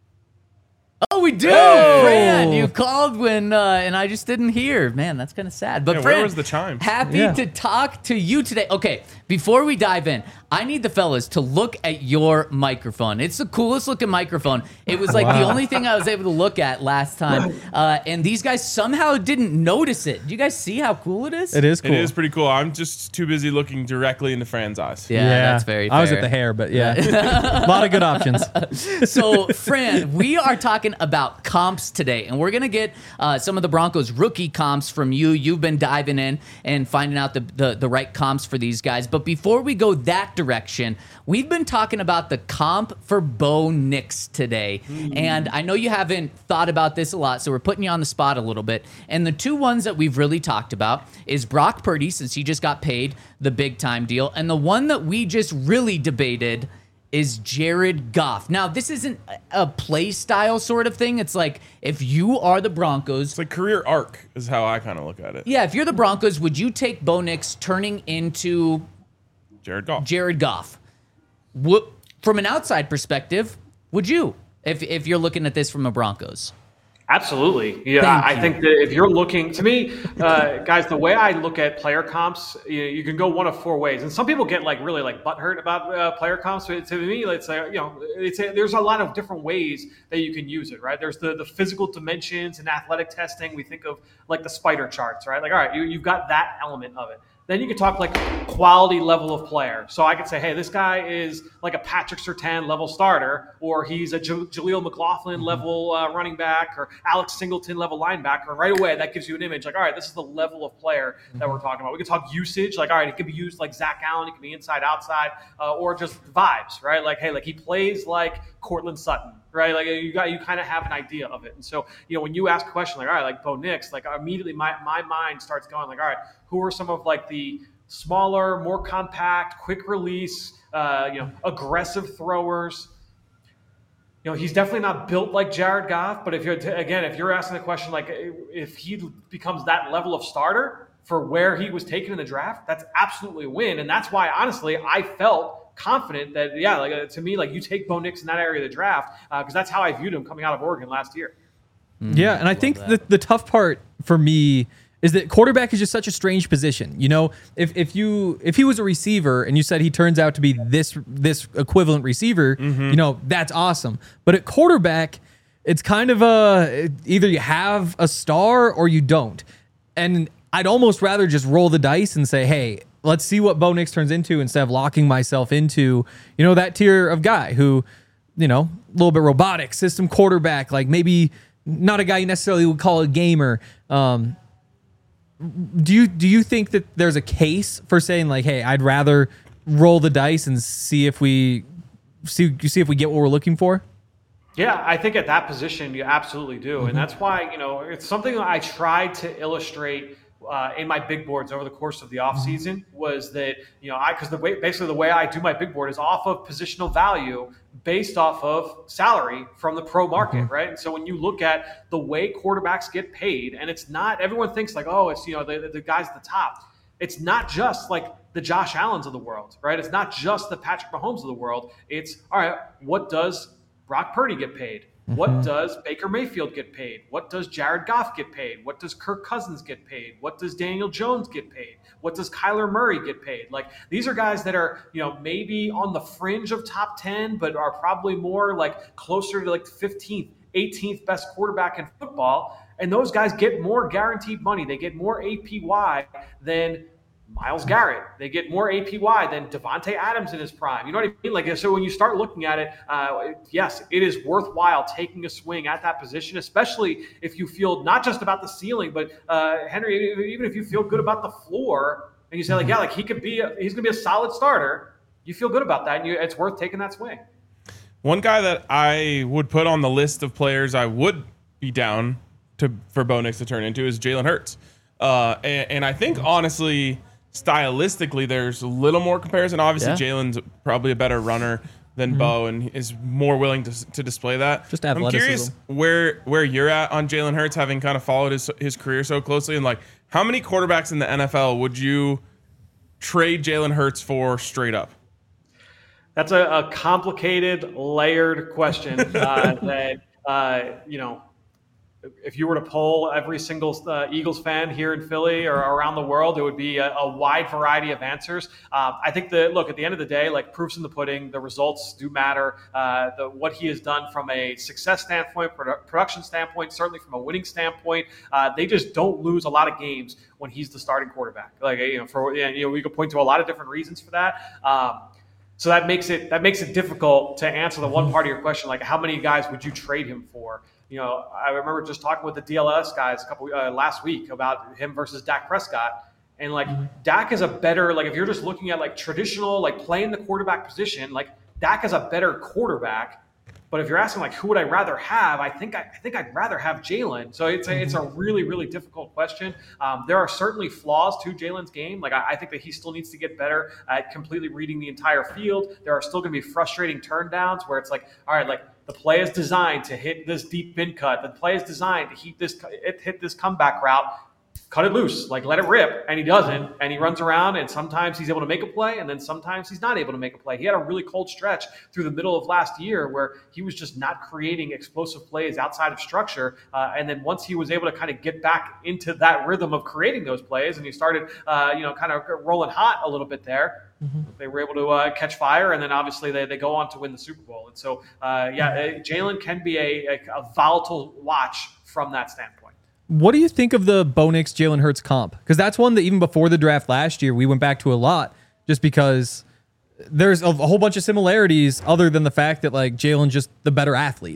Oh, we do. Hey! Fran, you called when, uh, and I just didn't hear. Man, that's kind of sad. But Yeah, Fran, where was the chimes? happy Yeah. to talk to you today. Okay, before we dive in, I need the fellas to look at your microphone. It's the coolest looking microphone. It was like the Wow. only thing I was able to look at last time, uh, and these guys somehow didn't notice it. Do you guys see how cool it is? It is cool. It is pretty cool. I'm just too busy looking directly into Fran's eyes. Yeah, that's very fair. I was at the hair, but yeah. A lot of good options. So, Fran, we are talking about comps today, and we're going to get uh, some of the Broncos rookie comps from you. You've been diving in and finding out the, the, the right comps for these guys. But before we go that direction, we've been talking about the comp for Bo Nix today. And I know you haven't thought about this a lot, so we're putting you on the spot a little bit. And the two ones that we've really talked about is Brock Purdy, since he just got paid the big time deal. And the one that we just really debated is Jared Goff. Now, this isn't a play style sort of thing. It's like if you are the Broncos, It's like career arc is how I kind of look at it. yeah, if you're the Broncos, would you take Bo Nix turning into Jared Goff. Jared Goff? What, from an outside perspective, would you? If if you're looking at this from a Broncos. Absolutely. Yeah, Thank I you. think that if you're looking, to me, uh, guys, the way I look at player comps, you, you can go one of four ways. And some people get like really like butthurt about uh, player comps. But to me, it's like, you know, it's a, there's a lot of different ways that you can use it, right? There's the, the physical dimensions and athletic testing. We think of like the spider charts, right? Like, all right, you, you've got that element of it. Then you can talk like quality level of player. So I could say, hey, this guy is like a Patrick Surtain level starter, or he's a J- Jaleel McLaughlin level uh, running back, or Alex Singleton level linebacker. And right away, that gives you an image like, all right, this is the level of player that we're talking about. We can talk usage, like, all right, it could be used like Zach Allen, it could be inside, outside, uh, or just vibes, right? Like, hey, like he plays like Cortland Sutton. Right, like you got, you kind of have an idea of it, and so you know when you ask a question like, all right, like Bo Nix, like immediately my my mind starts going like, all right, who are some of like the smaller, more compact, quick release, uh, you know, aggressive throwers. You know, he's definitely not built like Jared Goff, but if you're again, if you're asking the question like if he becomes that level of starter for where he was taken in the draft, that's absolutely a win, and that's why honestly I felt confident that, yeah, like uh, to me, like you take Bo Nix in that area of the draft because uh, that's how I viewed him coming out of Oregon last year. Yeah, and I think the, the tough part for me is that quarterback is just such a strange position. You know, if if you if he was a receiver and you said he turns out to be this this equivalent receiver, mm-hmm. you know, that's awesome. But at quarterback, it's kind of a either you have a star or you don't. And I'd almost rather just roll the dice and say, hey, let's see what Bo Nix turns into instead of locking myself into, you know, that tier of guy who, you know, a little bit robotic, system quarterback, like maybe not a guy you necessarily would call a gamer. Um, do you do you think that there's a case for saying like, hey, I'd rather roll the dice and see if we see see if we get what we're looking for? Yeah, I think at that position you absolutely do, mm-hmm. and that's why you know it's something that I tried to illustrate uh, in my big boards over the course of the offseason was that you know I because the way basically the way I do my big board is off of positional value based off of salary from the pro market, mm-hmm. right? And so when you look at the way quarterbacks get paid, and it's not everyone thinks like oh it's you know the the guys at the top. It's not just like the Josh Allens of the world, right? It's not just the Patrick Mahomes of the world. It's all right. What does Brock Purdy get paid? Mm-hmm. What does Baker Mayfield get paid? What does Jared Goff get paid? What does Kirk Cousins get paid? What does Daniel Jones get paid? What does Kyler Murray get paid? Like these are guys that are, you know, maybe on the fringe of top ten, but are probably more like closer to like fifteenth, eighteenth best quarterback in football. And those guys get more guaranteed money. They get more A P Y than Myles Garrett. They get more A P Y than Devontae Adams in his prime. You know what I mean? Like, so when you start looking at it, uh, yes, it is worthwhile taking a swing at that position, especially if you feel not just about the ceiling, but uh, Henry, even if you feel good about the floor and you say like, yeah, like he could be, a, he's going to be a solid starter. You feel good about that, and you, it's worth taking that swing. One guy that I would put on the list of players I would be down to for Bo Nix to turn into is Jalen Hurts, uh, and, and I think honestly. Stylistically, there's a little more comparison. Obviously, yeah. Jalen's probably a better runner than mm-hmm. Bo and is more willing to to display that. Just athleticism. I'm curious where where you're at on Jalen Hurts, having kind of followed his his career so closely, and like how many quarterbacks in the N F L would you trade Jalen Hurts for straight up? That's a, a complicated, layered question uh, that uh, you know. If you were to poll every single uh, Eagles fan here in Philly or around the world, it would be a, a wide variety of answers. Um, I think that, look, at the end of the day, like proof's in the pudding, the results do matter. Uh, the, what he has done from a success standpoint, produ- production standpoint, certainly from a winning standpoint, uh, they just don't lose a lot of games when he's the starting quarterback. Like, you know, for you know, we could point to a lot of different reasons for that. Um, so that makes it that makes it difficult to answer the one part of your question, like how many guys would you trade him for? You know, I remember just talking with the D L S guys a couple uh, last week about him versus Dak Prescott, and like mm-hmm. Dak is a better like if you're just looking at like traditional like playing the quarterback position, like Dak is a better quarterback. But if you're asking like who would I rather have, I think I, I think I'd rather have Jalen. So it's a, it's a really really difficult question. Um, there are certainly flaws to Jalen's game. Like I, I think that he still needs to get better at completely reading the entire field. There are still going to be frustrating turn downs where it's like, all right, like. The play is designed to hit this deep bin cut. The play is designed to hit this hit this comeback route. Cut it loose, like let it rip, and he doesn't. And he runs around, and sometimes he's able to make a play, and then sometimes he's not able to make a play. He had a really cold stretch through the middle of last year where he was just not creating explosive plays outside of structure. Uh, and then once he was able to kind of get back into that rhythm of creating those plays, and he started, uh, you know, kind of rolling hot a little bit there. Mm-hmm. They were able to uh, catch fire, and then obviously they, they go on to win the Super Bowl. And so, uh, yeah, Jalen can be a, a, a volatile watch from that standpoint. What do you think of the Bo Nix Jalen Hurts comp? Because that's one that even before the draft last year, we went back to a lot just because there's a, a whole bunch of similarities other than the fact that like Jalen's just the better athlete.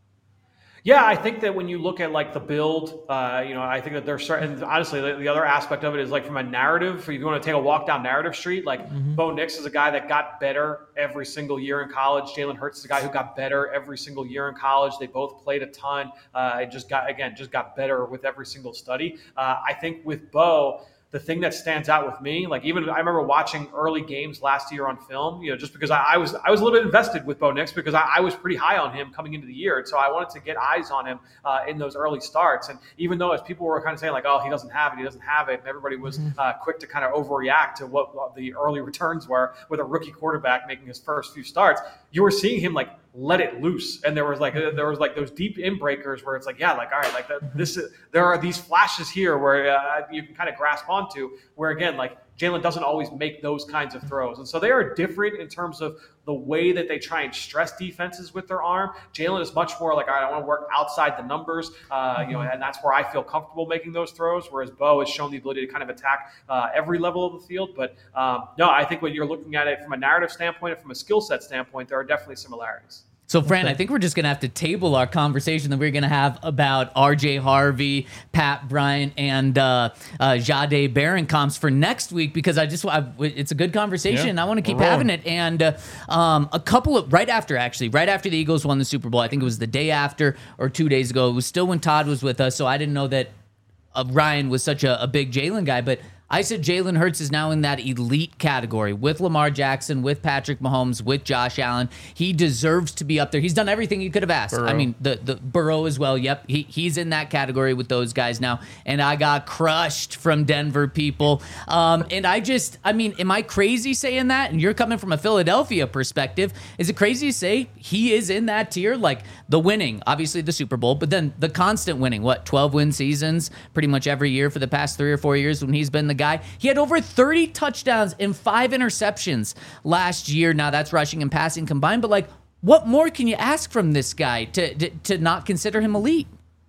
Yeah, I think that when you look at like the build, uh, you know, I think that there's certain, honestly, the, the other aspect of it is like from a narrative, if you want to take a walk down narrative street, like mm-hmm. Bo Nix is a guy that got better every single year in college. Jalen Hurts is a guy who got better every single year in college. They both played a ton. Uh, and just got, again, just got better with every single study. Uh, I think with Bo, the thing that stands out with me, like even I remember watching early games last year on film, you know, just because I, I was I was a little bit invested with Bo Nix because I, I was pretty high on him coming into the year, and so I wanted to get eyes on him uh, in those early starts. And even though as people were kind of saying like, oh, he doesn't have it, he doesn't have it, and everybody was uh, quick to kind of overreact to what, what the early returns were with a rookie quarterback making his first few starts, you were seeing him like let it loose. And there was like there was like those deep in breakers where it's like, yeah, like all right, like the, this is there are these flashes here where uh, you can kind of grasp onto. Where again, like Jalen doesn't always make those kinds of throws, and so they are different in terms of the way that they try and stress defenses with their arm. Jalen is much more like, all right, I want to work outside the numbers, uh, you know, and that's where I feel comfortable making those throws. Whereas Bo has shown the ability to kind of attack uh, every level of the field. But um, no, I think when you're looking at it from a narrative standpoint and from a skill set standpoint, there are definitely similarities. So, Fran, I think we're just going to have to table our conversation that we're going to have about R J Harvey, Pat Bryant, and uh, uh, Jahdae Barron comps for next week, because I just I, it's a good conversation. Yeah, I want to keep we're having rolling. it. And uh, um, a couple of, right after, actually, right after the Eagles won the Super Bowl, I think it was the day after or two days ago. It was still when Todd was with us, so I didn't know that uh, Ryan was such a, a big Jalen guy, but I said Jalen Hurts is now in that elite category with Lamar Jackson, with Patrick Mahomes, with Josh Allen. He deserves to be up there. He's done everything you could have asked. Burrow. I mean, the the Burrow as well. Yep, he he's in that category with those guys now. And I got crushed from Denver people. Um, and I just, I mean, am I crazy saying that? And you're coming from a Philadelphia perspective. Is it crazy to say he is in that tier? Like the winning, obviously the Super Bowl, but then the constant winning. What, twelve win seasons pretty much every year for the past three or four years when he's been the guy. He had over thirty touchdowns and five interceptions last year. Now that's rushing and passing combined, but like, what more can you ask from this guy to to, to not consider him elite?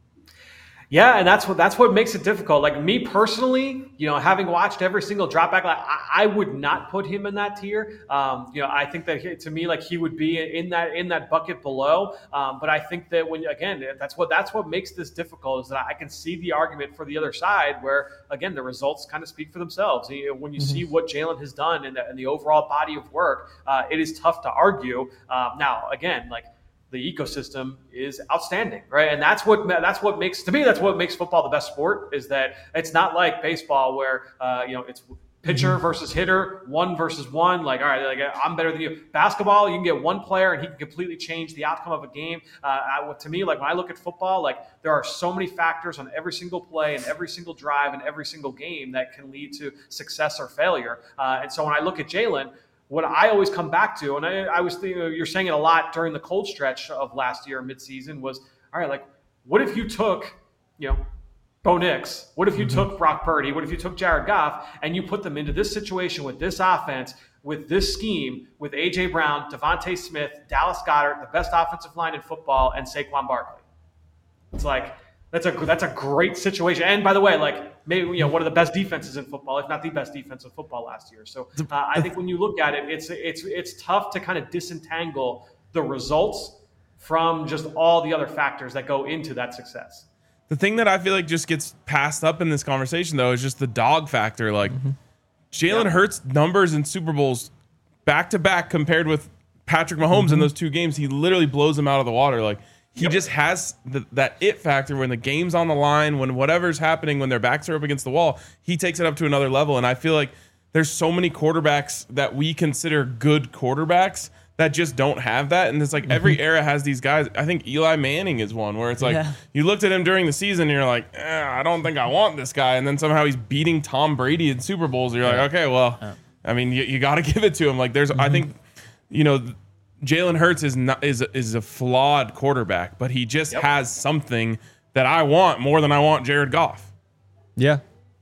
Yeah, and that's what that's what makes it difficult. Like me personally, you know, having watched every single drop back, like, I, I would not put him in that tier. Um, you know, I think that he, to me, like he would be in that in that bucket below. Um, but I think that when again, that's what that's what makes this difficult is that I can see the argument for the other side, where again the results kind of speak for themselves. You know, when you mm-hmm. see what Jalen has done in the, in the overall body of work, uh, it is tough to argue. Um, now, again, like. The ecosystem is outstanding, right? And that's what that's what makes to me that's what makes football the best sport. Is that it's not like baseball where uh, you know it's pitcher versus hitter, one versus one. Like, all right, like I'm better than you. Basketball, you can get one player and he can completely change the outcome of a game. Uh, I, to me, like when I look at football, like there are so many factors on every single play and every single drive and every single game that can lead to success or failure. Uh, and so when I look at Jalen. What I always come back to, and I, I was thinking, you're saying it a lot during the cold stretch of last year, midseason, was, all right, like, what if you took, you know, Bo Nix? What if you mm-hmm. took Brock Purdy? What if you took Jared Goff and you put them into this situation with this offense, with this scheme, with A J Brown, Devontae Smith, Dallas Goedert, the best offensive line in football, and Saquon Barkley? It's like, That's a that's a great situation. And by the way, like maybe you know one of the best defenses in football, if not the best defense in football last year. So uh, I think when you look at it, it's it's it's tough to kind of disentangle the results from just all the other factors that go into that success. The thing that I feel like just gets passed up in this conversation, though, is just the dog factor. Like mm-hmm. Jalen yeah. Hurts' numbers in Super Bowls back to back compared with Patrick Mahomes mm-hmm. in those two games, he literally blows them out of the water. Like. He yep. just has the, that it factor when the game's on the line, when whatever's happening, when their backs are up against the wall, he takes it up to another level. And I feel like there's so many quarterbacks that we consider good quarterbacks that just don't have that. And it's like mm-hmm. every era has these guys. I think Eli Manning is one where it's like yeah. you looked at him during the season and you're like, eh, I don't think I want this guy. And then somehow he's beating Tom Brady in Super Bowls. And you're like, okay, well, yeah. I mean, you, you got to give it to him. Like there's, mm-hmm. I think, you know, Jalen Hurts is not is is a flawed quarterback, but he just yep. has something that I want more than I want Jared Goff. Yeah,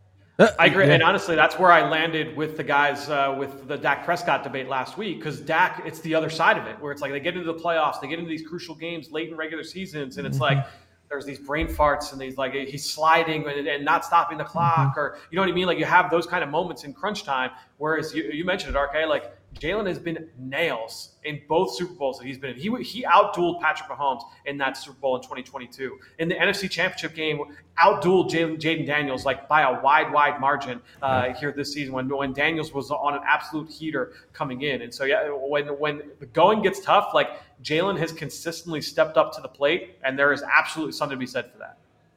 I agree. Yeah. And honestly, that's where I landed with the guys uh, with the Dak Prescott debate last week, because Dak, it's the other side of it, where it's like they get into the playoffs, they get into these crucial games late in regular seasons, and it's mm-hmm. like there's these brain farts and these like he's sliding and, and not stopping the clock, mm-hmm. or you know what I mean? Like you have those kind of moments in crunch time. Whereas you, you mentioned it, R K, like Jalen has been nails in both Super Bowls that he's been in. He he outdueled Patrick Mahomes in that Super Bowl in twenty twenty-two. In the N F C Championship game, outdueled Jaden Daniels like by a wide, wide margin uh, here this season when when Daniels was on an absolute heater coming in. And so yeah, when when the going gets tough, like Jalen has consistently stepped up to the plate, and there is absolutely something to be said for that.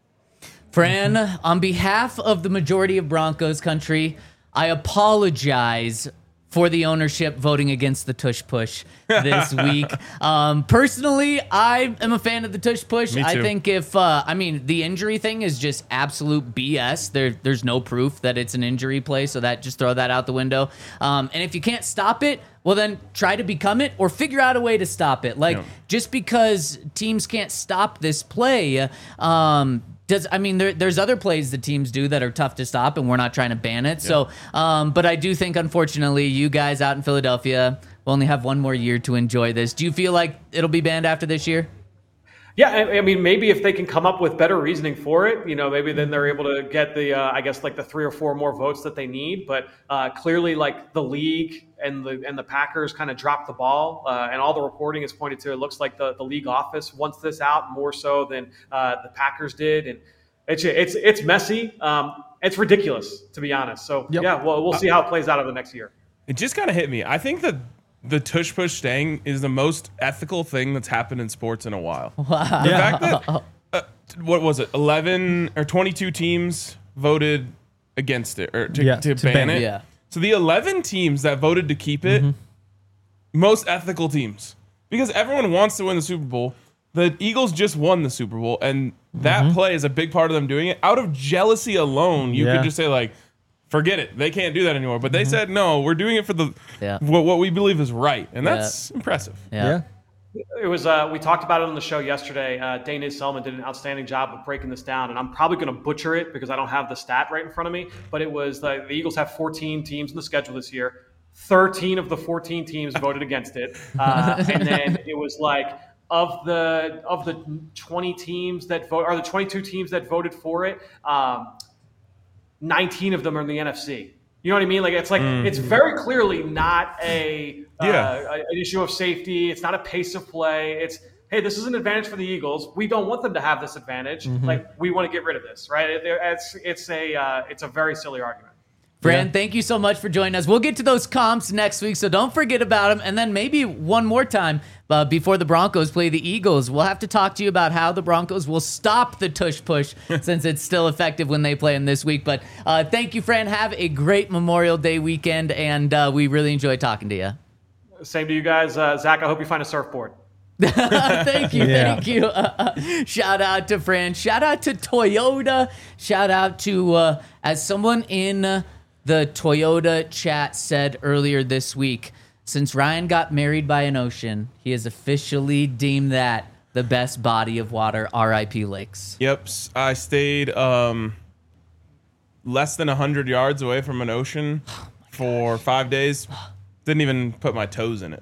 Fran, on behalf of the majority of Broncos country, I apologize for the ownership voting against the tush push this week. Um, personally, I am a fan of the tush push. Me too. I think if, uh, I mean, the injury thing is just absolute B S. There, there's no proof that it's an injury play, so that just throw that out the window. Um, and if you can't stop it, well, then try to become it or figure out a way to stop it. Like, Yeah. just because teams can't stop this play, um, does I mean, there, there's other plays that teams do that are tough to stop, and we're not trying to ban it. So, um, but I do think, unfortunately, you guys out in Philadelphia will only have one more year to enjoy this. Do you feel like it'll be banned after this year? Yeah, I, I mean, maybe if they can come up with better reasoning for it, you know, maybe then they're able to get the, uh, I guess, like the three or four more votes that they need. But uh, clearly, like the league and the and the Packers kind of dropped the ball, uh, and all the reporting is pointed to it looks like the, the league office wants this out more so than uh, the Packers did, and it's it's it's messy. Um, it's ridiculous, to be honest. So Yep. yeah, well, we'll see how it plays out over the next year. It just kind of hit me. I think that the tush push staying is the most ethical thing that's happened in sports in a while. Wow. The fact that, uh, what was it, eleven or twenty-two teams voted against it or to, Yeah, to, to ban ban it. it. Yeah. So the eleven teams that voted to keep it, most ethical teams, because everyone wants to win the Super Bowl. The Eagles just won the Super Bowl, and that play is a big part of them doing it. Out of jealousy alone, you Yeah. could just say like, forget it. They can't do that anymore. But they said, no, we're doing it for the Yeah. what, what we believe is right. And that's impressive. Yeah. It was. Uh, we talked about it on the show yesterday. Uh, Dana Selman did an outstanding job of breaking this down, and I'm probably going to butcher it because I don't have the stat right in front of me. But it was the, the Eagles have fourteen teams in the schedule this year. thirteen of the fourteen teams voted against it, uh, and then it was like of the of the twenty teams that vote, or the twenty-two teams that voted for it, um, nineteen of them are in the N F C. You know what I mean? Like it's like it's very clearly not a uh, Yeah. an issue of safety. It's not a pace of play. It's hey, this is an advantage for the Eagles. We don't want them to have this advantage. Like we want to get rid of this, right? It, it's it's a uh, it's a very silly argument. Fran, Yeah. thank you so much for joining us. We'll get to those comps next week, so don't forget about them. And then maybe one more time uh, before the Broncos play the Eagles, we'll have to talk to you about how the Broncos will stop the tush push since it's still effective when they play them this week. But uh, thank you, Fran. Have a great Memorial Day weekend, and uh, we really enjoyed talking to you. Same to you guys, uh, Zach. I hope you find a surfboard. Thank you, Yeah. thank you. Uh, shout out to Fran. Shout out to Toyota. Shout out to, uh, as someone in uh, the Toyota chat said earlier this week, since Ryan got married by an ocean, he has officially deemed that the best body of water, R I P lakes. Yep. s- I stayed um, less than one hundred yards away from an ocean for five days. Didn't even put my toes in it.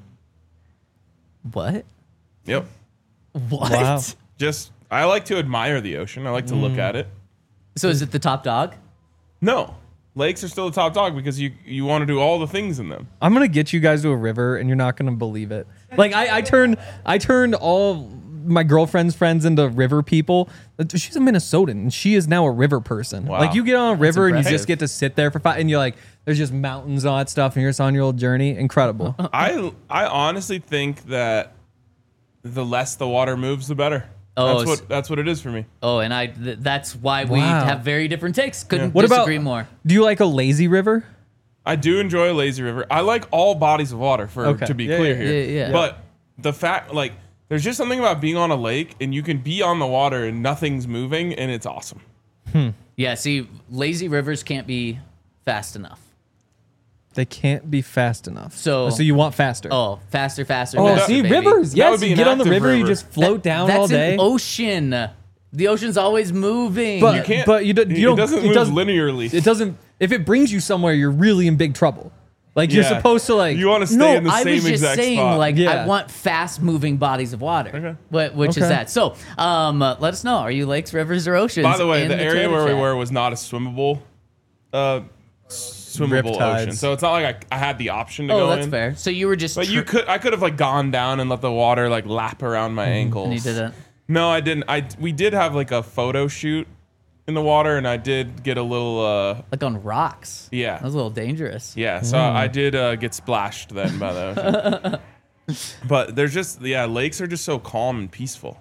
What? Yep. What? Wow. Just, I like to admire the ocean. I like to look at it. So is it the top dog? No. Lakes are still the top dog because you, you want to do all the things in them. I'm gonna get you guys to a river, and you're not gonna believe it. Like I, I turned, I turned all my girlfriend's friends into river people. She's a Minnesotan, and she is now a river person. Wow. Like you get on a river and you impressive. just get to sit there for five, and you're like, there's just mountains and all that stuff, and you're just on your little journey. Incredible. I I honestly think that the less the water moves, the better. Oh, that's s- what that's what it is for me. Oh, and I th- that's why we Wow. have very different takes. Couldn't What about? disagree more. Do you like a lazy river? I do enjoy a lazy river. I like all bodies of water, for Okay. to be Yeah, clear yeah, here. yeah, yeah. But the fact, like, there's just something about being on a lake and you can be on the water and nothing's moving and it's awesome. Yeah, see, lazy rivers can't be fast enough. They can't be fast enough. So- Oh, so you want faster. Oh, faster, faster. Oh, faster, see, baby. rivers. That Yes, would be you an get on the active river, you river. just float down That's all day. an ocean. The ocean's always moving. But You can't. but you, do, you it don't. doesn't it move doesn't, linearly. It doesn't. If it brings you somewhere, you're really in big trouble. Like you're Yeah. supposed to like. You want to stay no, in the I same was just exact saying, spot. like, I Yeah. want fast-moving bodies of water. Okay. Wh- which is Okay. that? So, um, uh, let us know. Are you lakes, rivers, or oceans? By the way, in the area Toyota where we chat? were was not a swimmable, uh, swimmable Riptides. ocean. So it's not like I, I had the option to Oh, go that's in. fair. So you were just. But you tri- could, I could have like gone down and let the water like lap around my ankles. And you didn't. No, I didn't. I we did have like a photo shoot in the water, and I did get a little. uh Like on rocks. Yeah. That was a little dangerous. Yeah, so I did uh, get splashed then by the ocean. But there's just yeah, lakes are just so calm and peaceful.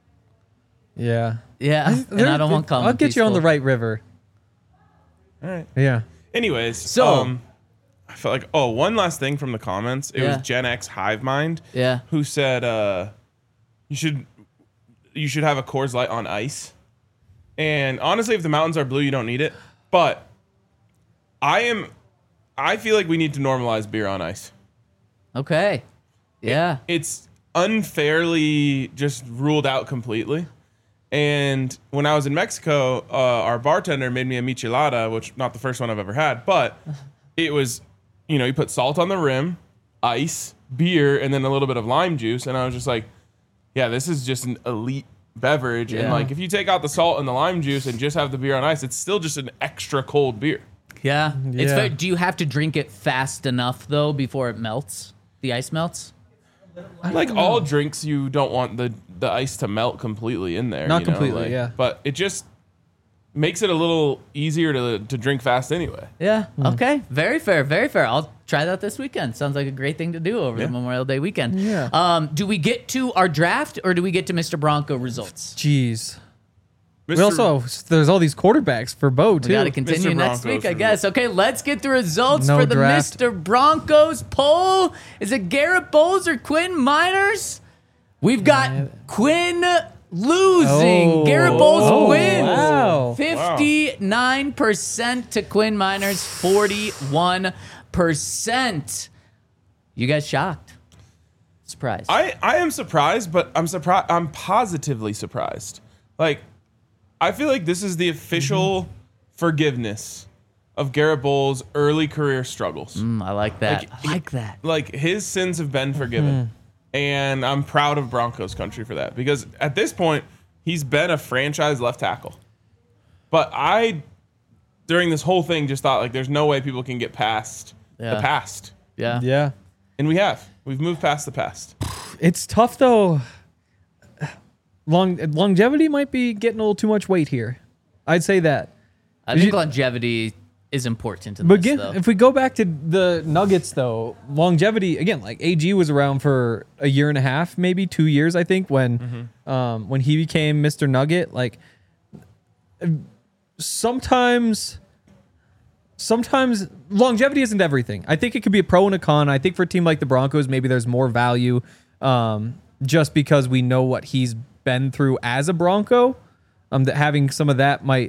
Yeah. Yeah. and There- I don't want calm I'll and get you on the peaceful. right river. All right. Yeah. Anyways, So- um, I felt like oh, one last thing from the comments. It Yeah. was Gen X Hive Mind Yeah. who said uh, you should you should have a Coors Light on ice. And honestly, if the mountains are blue, you don't need it. But I am, I feel like we need to normalize beer on ice. Okay. Yeah. It's unfairly just ruled out completely. And when I was in Mexico, uh, our bartender made me a michelada, which not the first one I've ever had, but it was, you know, you put salt on the rim, ice, beer, and then a little bit of lime juice. And I was just like, yeah, this is just an elite beverage. Yeah. And like, if you take out the salt and the lime juice and just have the beer on ice, it's still just an extra cold beer. Yeah. It's Yeah. fair. Do you have to drink it fast enough though before it melts? The ice melts? Like all drinks, you don't want the, the ice to melt completely in there. Not you know, completely, like- yeah. But it just makes it a little easier to to drink fast anyway. Yeah. Hmm. Okay. Very fair. Very fair. I'll try that this weekend. Sounds like a great thing to do over Yeah. the Memorial Day weekend. Yeah. Um, do we get to our draft or do we get to Mister Bronco results? Jeez. Mister We also there's all these quarterbers for Bo too. We got to continue Mister next Broncos week, I for- guess. Okay, let's get the results No for the draft. Mister Broncos poll. Is it Garrett Bowles or Quinn Miners? We've got Quinn losing. Oh. Garrett Bowles Oh, wins. wow. fifty-nine percent to Quinn Miners, forty-one percent. You guys shocked? Surprised. I, I am surprised, but I'm surprised. I'm positively surprised. Like, I feel like this is the official Mm-hmm. forgiveness of Garrett Bowles' early career struggles. Mm, I like that. Like, I like that. Like, his sins have been forgiven. And I'm proud of Broncos country for that. Because at this point, he's been a franchise left tackle. But I, during this whole thing, just thought, like, there's no way people can get past Yeah. the past. Yeah. Yeah. And we have. We've moved past the past. It's tough though. Long longevity might be getting a little too much weight here. I'd say that. I Did think you- longevity is important in But this, again, though. if we go back to the Nuggets though, longevity again, like A G was around for a year and a half, maybe two years, I think, when Mm-hmm. um, when he became Mister Nugget. Like sometimes sometimes longevity isn't everything. I think it could be a pro and a con. I think for a team like the Broncos, maybe there's more value um, just because we know what he's been through as a Bronco. Um, that having some of that might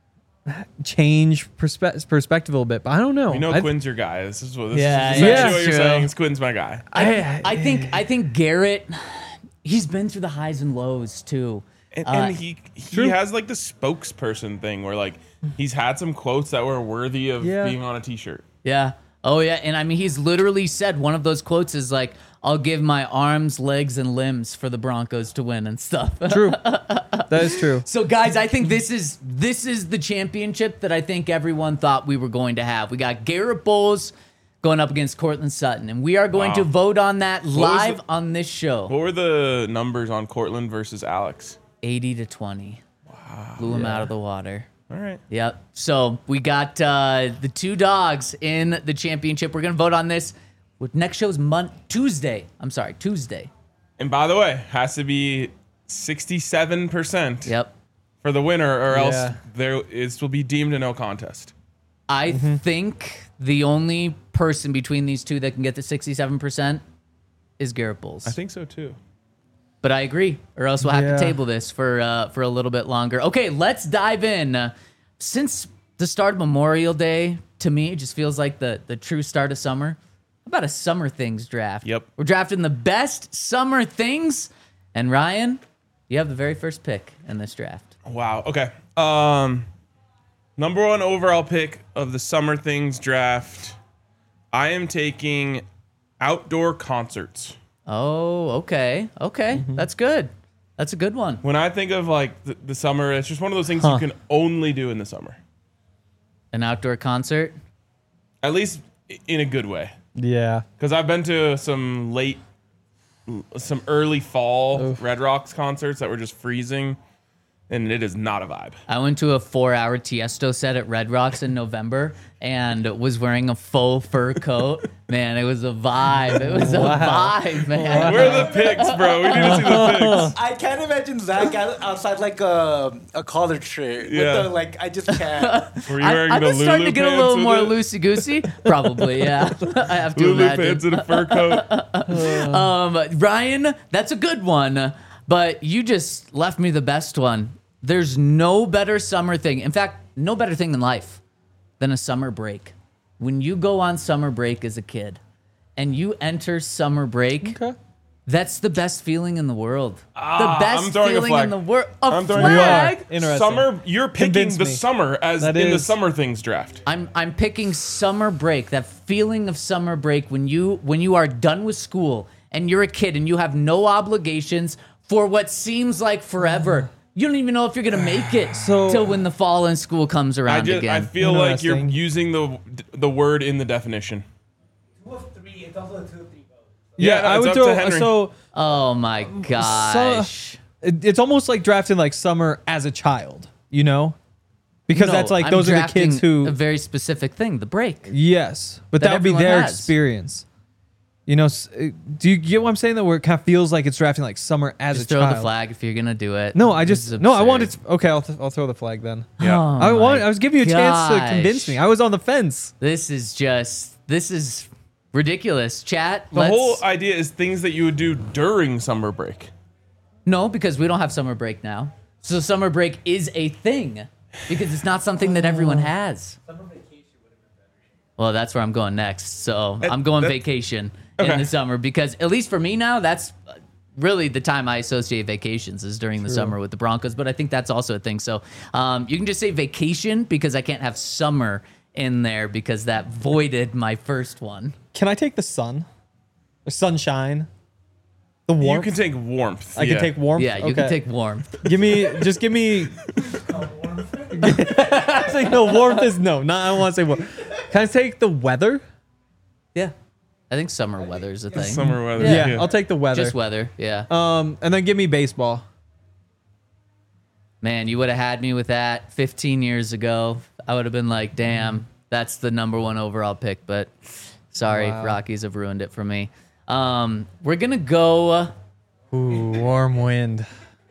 change perspe- perspective a little bit, but I don't know. You know I- Quinn's your guy. This is what this Yeah, is essentially yeah. what you're True. saying. Is Quinn's my guy. I, I think I think Garrett, he's been through the highs and lows too. And, Uh, and he he True. has like the spokesperson thing where like he's had some quotes that were worthy of Yeah. being on a t-shirt. Yeah. Oh yeah. And I mean, he's literally said one of those quotes is like, "I'll give my arms, legs, and limbs for the Broncos to win" and stuff. True. That is true. So guys, I think this is this is the championship that I think everyone thought we were going to have. We got Garrett Bowles going up against Cortland Sutton, and we are going Wow. to vote on that was live the- on this show. What were the numbers on Cortland versus Alex? eighty to twenty. Wow. Blew him out of the water. All right. Yep. So we got uh, the two dogs in the championship. We're gonna vote on this. With next show's Mon- Tuesday. I'm sorry, Tuesday. And by the way, has to be sixty-seven percent Yep. for the winner, or else Yeah. there is will be deemed a no contest. I think the only person between these two that can get the sixty-seven percent is Garrett Bowles. I think so too. But I agree, or else we'll have Yeah. to table this for uh, for a little bit longer. Okay, let's dive in. Uh, since the start of Memorial Day, to me, it just feels like the the true start of summer. How about a summer things draft? Yep. We're drafting the best summer things, and Ryan, you have the very first pick in this draft. Wow. Okay. Um, number one overall pick of the Summer Things draft. I am taking outdoor concerts. Oh, okay, okay, that's good. That's a good one. When I think of like the, the summer, it's just one of those things Huh. you can only do in the summer. An outdoor concert. At least i- in a good way. Yeah. Because I've been to some late, some early fall Red Rocks concerts that were just freezing, and it is not a vibe. I went to a four-hour Tiesto set at Red Rocks in November and was wearing a faux fur coat. Man, it was a vibe. It was a vibe, man. Where are the pics, bro? We need to see the pics. I can't imagine Zach out- outside like a, a collared shirt. Yeah. With the, like, I just can't. Were you I, wearing I'm the just Lulu starting to get a pants little with more it? loosey-goosey. Probably, yeah. I have to Lulu imagine. pants and a fur coat. Um, Ryan, that's a good one, but you just left me the best one. There's no better summer thing. In fact, no better thing in life than a summer break. When you go on summer break as a kid and you enter summer break, Okay. that's the best feeling in the world. Ah, the best I'm throwing a feeling flag. in the world. A I'm throwing a flag. Interesting. Summer, you're picking Convince the me. summer as That in the is- summer things draft. I'm I'm picking summer break. That feeling of summer break when you when you are done with school and you're a kid and you have no obligations for what seems like forever. You don't even know if you're gonna make it So- till when the fall and school comes around I just I again. feel like you're Interesting. using the the word in the definition. Two of three. It's also a two of three vote. Yeah, Yeah, I it's would up to throw. Henry. So oh my gosh. it- it's almost like drafting like summer as a child, you know, because No, that's like I'm those are the drafting kids who. a very specific thing, the break. Yes, but that that would be everyone their has. experience. You know, s- uh, do you get what I'm saying? That where it kind of feels like it's drafting like summer as Just a throw child. the flag if you're gonna do it. No, I This just is no. I absurd. wanted. To, okay, I'll, th- I'll throw the flag then. Yeah. Oh I want. my I was giving you a chance to convince gosh. me. I was on the fence. This is just this is ridiculous. Chat. The let's, whole idea is things that you would do during summer break. No, because we don't have summer break now. So summer break is a thing because it's not something that everyone has. Well, that's where I'm going next. So I'm going that- vacation Okay. in the summer because at least for me now, that's really the time I associate vacations is during the summer with the Broncos. But I think that's also a thing. So um, you can just say vacation because I can't have summer in there because that voided my first one. Can I take the sun, or sunshine, the You warmth? can take warmth. I yeah. can take warmth. Yeah, you Okay. can take warmth. Give me, just give me. I say no. Warmth is no. Not. I don't want to say warmth. Can I take the weather? Yeah. I think summer weather is a thing. summer weather. Yeah, I'll take the weather. Just weather. Yeah. Um, and then give me baseball. Man, you would have had me with that fifteen years ago. I would have been like, damn, that's the number one overall pick. But sorry, Wow. Rockies have ruined it for me. Um, we're going to go. Ooh, warm wind.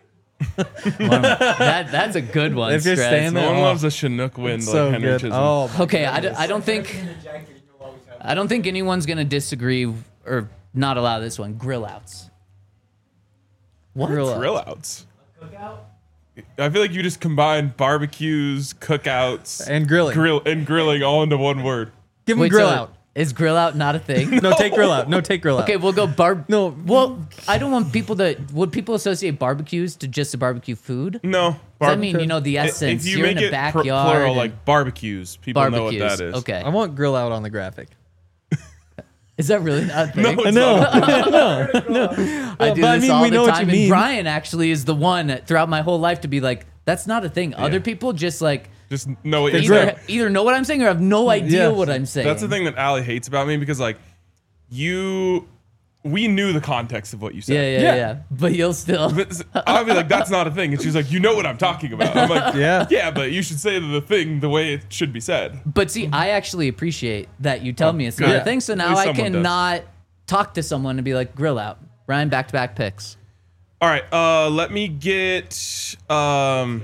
That, that's a good one. If you're Strez. staying No there- one Oh. loves a Chinook wind like So Henry good. Chisholm. Oh, Okay, I, d- I don't think I don't think anyone's going to disagree or not allow this one. Grill outs. What? Grill out. Grill outs. I feel like you just combine barbecues, cookouts, and grilling. grill and grilling all into one word. Give me Wait, grill so out. Is grill out not a thing? No, take grill out. No, take grill out. Okay, we'll go bar. No. Well, I don't want people to. Would people associate barbecues to just a barbecue food? No, Does that mean you know the I- essence? If you You're make in a it pr- backyard. plural, and like barbecues, people barbecues. know what that is. Okay. I want grill out on the graphic. Is that really not a thing? No, it's No, not. I do but I this mean, all we the know what time. you And mean. Brian actually is the one throughout my whole life to be like, that's not a thing. Other people just like Just know what you're either, saying. either know what I'm saying or have no idea Yeah. what I'm saying. That's the thing that Allie hates about me because like you, we knew the context of what you said. Yeah, yeah, yeah. Yeah. But you'll still. But I'll be like, that's not a thing. And she's like, you know what I'm talking about. I'm like, Yeah. yeah, but you should say the thing the way it should be said. But see, I actually appreciate that you tell me it's not good. a thing. So At now least I someone can does. not talk to someone and be like, grill out. Ryan, back to back picks. All right, uh, let me get. Um,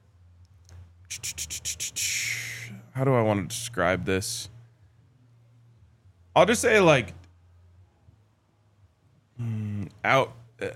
how do I want to describe this? I'll just say like mm, out uh,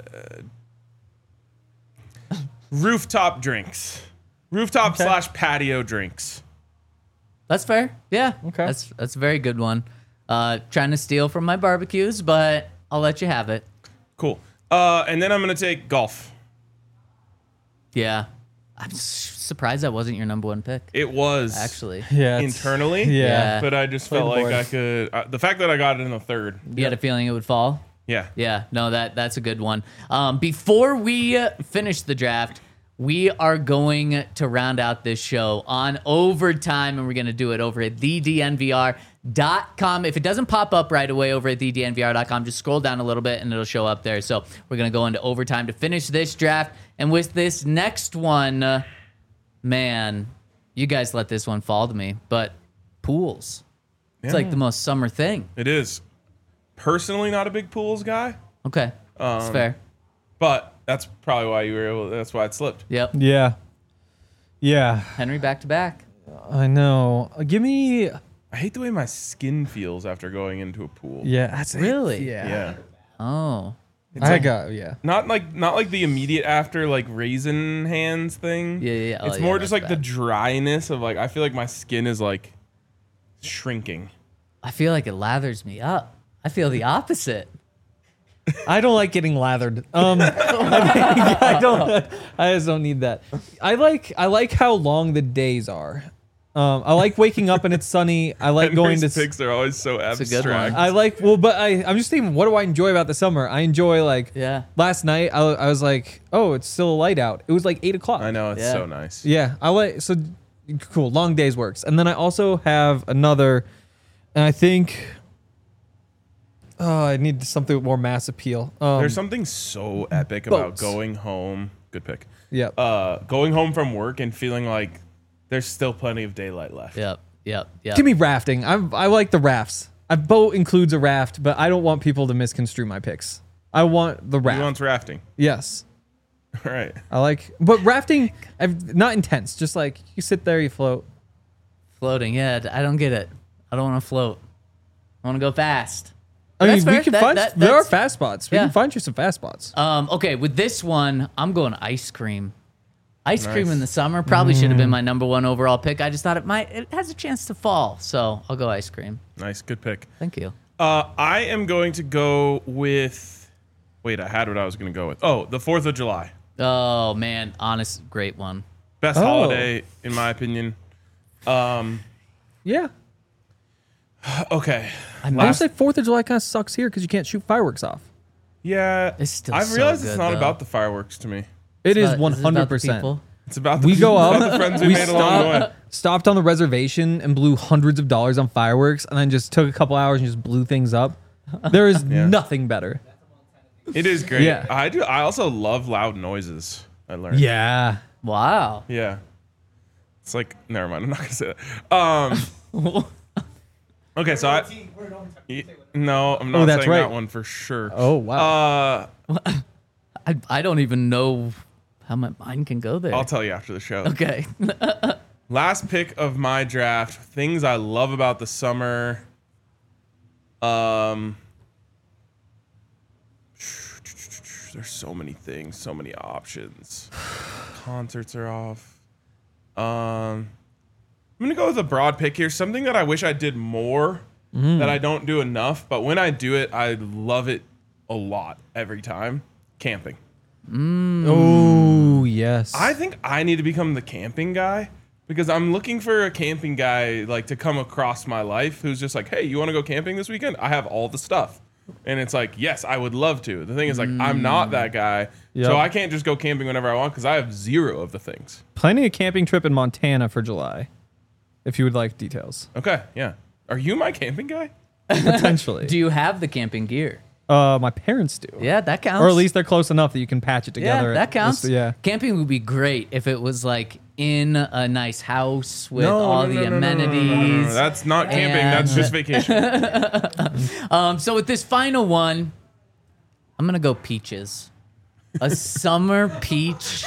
rooftop drinks, rooftop Okay. slash patio drinks. That's fair. Yeah. Okay. That's that's a very good one. Uh, trying to steal from my barbecues, but I'll let you have it. Cool. Uh, and then I'm gonna take golf. Yeah. I'm s- surprised that wasn't your number one pick. It was Actually, Yeah. it's- internally, Yeah. but I just Play felt the like board. I could. Uh, the fact that I got it in the third, you had a feeling it would fall. yeah. Yeah, no, that that's a good one. Um, before we uh, finish the draft, we are going to round out this show on overtime, and we're going to do it over at the D N V R dot com. If it doesn't pop up right away over at the D N V R dot com, just scroll down a little bit and it'll show up there. So we're going to go into overtime to finish this draft. And with this next one, uh, man, you guys let this one fall to me, but pools. It's like the most summer thing. It is. Personally, not a big pools guy, Okay, that's Um, fair. but that's probably why you were able. That's why it slipped. Yep. Yeah. Yeah. Henry back to back. I know. Uh, Give me. I hate the way my skin feels after going into a pool. Yeah. That's Really? Yeah. Yeah. Oh. I got. Yeah. Not like not like the immediate after like raisin hands thing. Yeah, yeah, yeah. Oh, It's yeah, more that's just like the bad. dryness of like I feel like my skin is like shrinking. I feel like it lathers me up. I feel the opposite. I don't like getting lathered. Um, I don't. I just don't need that. I like. I like how long the days are. Um, I like waking up and it's sunny. I like going to. Henry's picks are always so a good one. abstract. I like. Well, but I. I'm just thinking. What do I enjoy about the summer? I enjoy like. Yeah. Last night I, I was like, oh, it's still light out. It was like eight o'clock. I know it's Yeah. so nice. Yeah, I like so cool. Long days works, and then I also have another, and I think. Oh, I need something with more mass appeal. Um, There's something so epic about boats. going home. Good pick. Yep. Uh, going home from work and feeling like there's still plenty of daylight left. Yep. Yep. Yep. Give me rafting. I I like the rafts. A boat includes a raft, but I don't want people to misconstrue my picks. I want the Who raft. wants rafting? Yes, All right. I like, but rafting, I've, not intense. Just like you sit there, you float. Floating. Yeah. I don't get it. I don't want to float. I want to go fast. I That's mean, we fair. can That- find that- there are that's- fast spots. We yeah. can find you some fast spots. Um, okay, with this one, I'm going ice cream. Ice cream Nice. in the summer probably should have been my number one overall pick. I just thought it might it has a chance to fall, so I'll go ice cream. Nice. Good pick. Thank you. Uh, I am going to go with. Wait, I had what I was going to go with. Oh, the Fourth of July. Oh man, honest, great one. Best Oh. holiday in my opinion. Um. Yeah. Okay. I would Last- say Fourth of July kind of sucks here because you can't shoot fireworks off. Yeah. It's still I've so realized it's good, not though. about the fireworks to me. It is But one is it about hundred the percent. people? It's about the We go about up, the friends we, we made along the way. stop, stopped on the reservation and blew hundreds of dollars on fireworks, and then just took a couple hours and just blew things up. There is Yeah. nothing better. It is great. Yeah. I do. I also love loud noises. I learned. Yeah. Wow. Yeah. It's like never mind. I'm not gonna say that. Um. Okay, so I. Y- No, I'm not Oh, that's saying right. that one for sure. Oh, wow. Uh, I, I don't even know how my mind can go there. I'll tell you after the show. Okay. Last pick of my draft. Things I love about the summer. Um. There's so many things, so many options. Concerts are off. Um, I'm gonna go with a broad pick here. Something that I wish I did more, that I don't do enough. But when I do it, I love it a lot every time. Camping. Oh, yes. I think I need to become the camping guy because I'm looking for a camping guy like to come across my life who's just like, hey, you want to go camping this weekend? I have all the stuff. And it's like, yes, I would love to. The thing is, like, I'm not that guy. Yep. So I can't just go camping whenever I want because I have zero of the things. Planning a camping trip in Montana for July, if you would like details. Okay, yeah. Are you my camping guy? Potentially. Do you have the camping gear? uh, my parents do. Yeah, that counts. Or at least they're close enough that you can patch it yeah, together. that counts. Yeah. Camping would be great if it was like in a nice house with No, all no, the no, no, no, no, no, no, no, no. amenities. That's not camping. That's And- just vacation. Um, so with this final one, I'm gonna go peaches. A summer peach.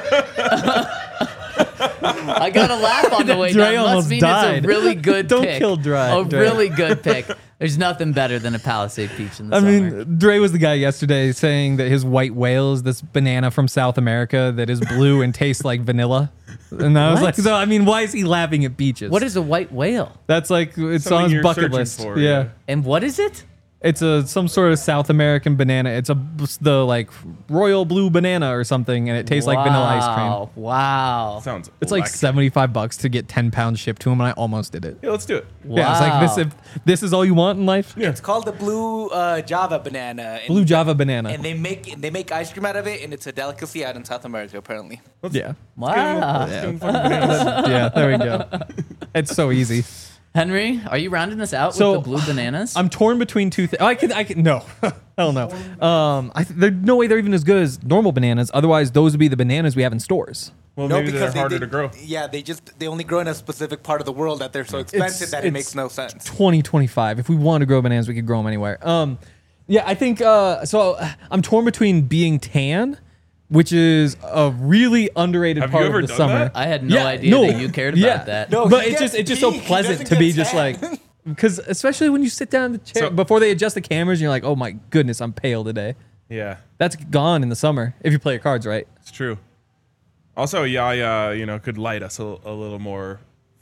I got a laugh on the way Dre down. Must almost mean died. it's a really good Don't pick. kill Dre, A Dre. really good pick. There's nothing better than a Palisade peach in the I summer. mean, Dre was the guy yesterday saying that his white whale is this banana from South America that is blue and tastes like vanilla. And I was What? like, so I mean, why is he laughing at peaches? what is a white whale? That's like it's Something on his you're bucket searching list. for, yeah. yeah. And what is it? It's a some sort of South American banana. It's a the like royal blue banana or something, and it tastes like vanilla ice cream. Wow. Wow. Sounds It's like electric. seventy-five bucks to get ten pounds shipped to him, and I almost did it. Yeah, let's do it. Yeah, it's like this. If this is all you want in life, Yeah. It's called the blue uh, Java banana. And, blue Java banana. And they make they make ice cream out of it, and it's a delicacy out in South America, apparently. Let's, yeah, let's get him- Wow. let's get him fucking bananas. yeah. There we go. It's so easy. Henry, are you rounding us out So, with the blue bananas? I'm torn between two things. I can, I can, no, hell no. Um, I th- there's no way they're even as good as normal bananas. Otherwise, those would be the bananas we have in stores. Well, No, maybe they're because they, harder they, to grow. Yeah, they just they only grow in a specific part of the world that they're so expensive It's- that it it's makes no sense. twenty twenty-five. If we want to grow bananas, we could grow them anywhere. Um, yeah, I think uh, so. uh, I'm torn between being tan, which is a really underrated Have you part ever of the done summer. that? I had no Yeah, idea no, that you cared about yeah. that. No, but he it's gets just it's just so pink. He pleasant doesn't to be get just tan. like because especially when you sit down in the chair So- before they adjust the cameras and you're like, oh my goodness, I'm pale today. Yeah, That's gone in the summer if you play your cards right. it's true. Also, Yaya, you know, could light us a, a little more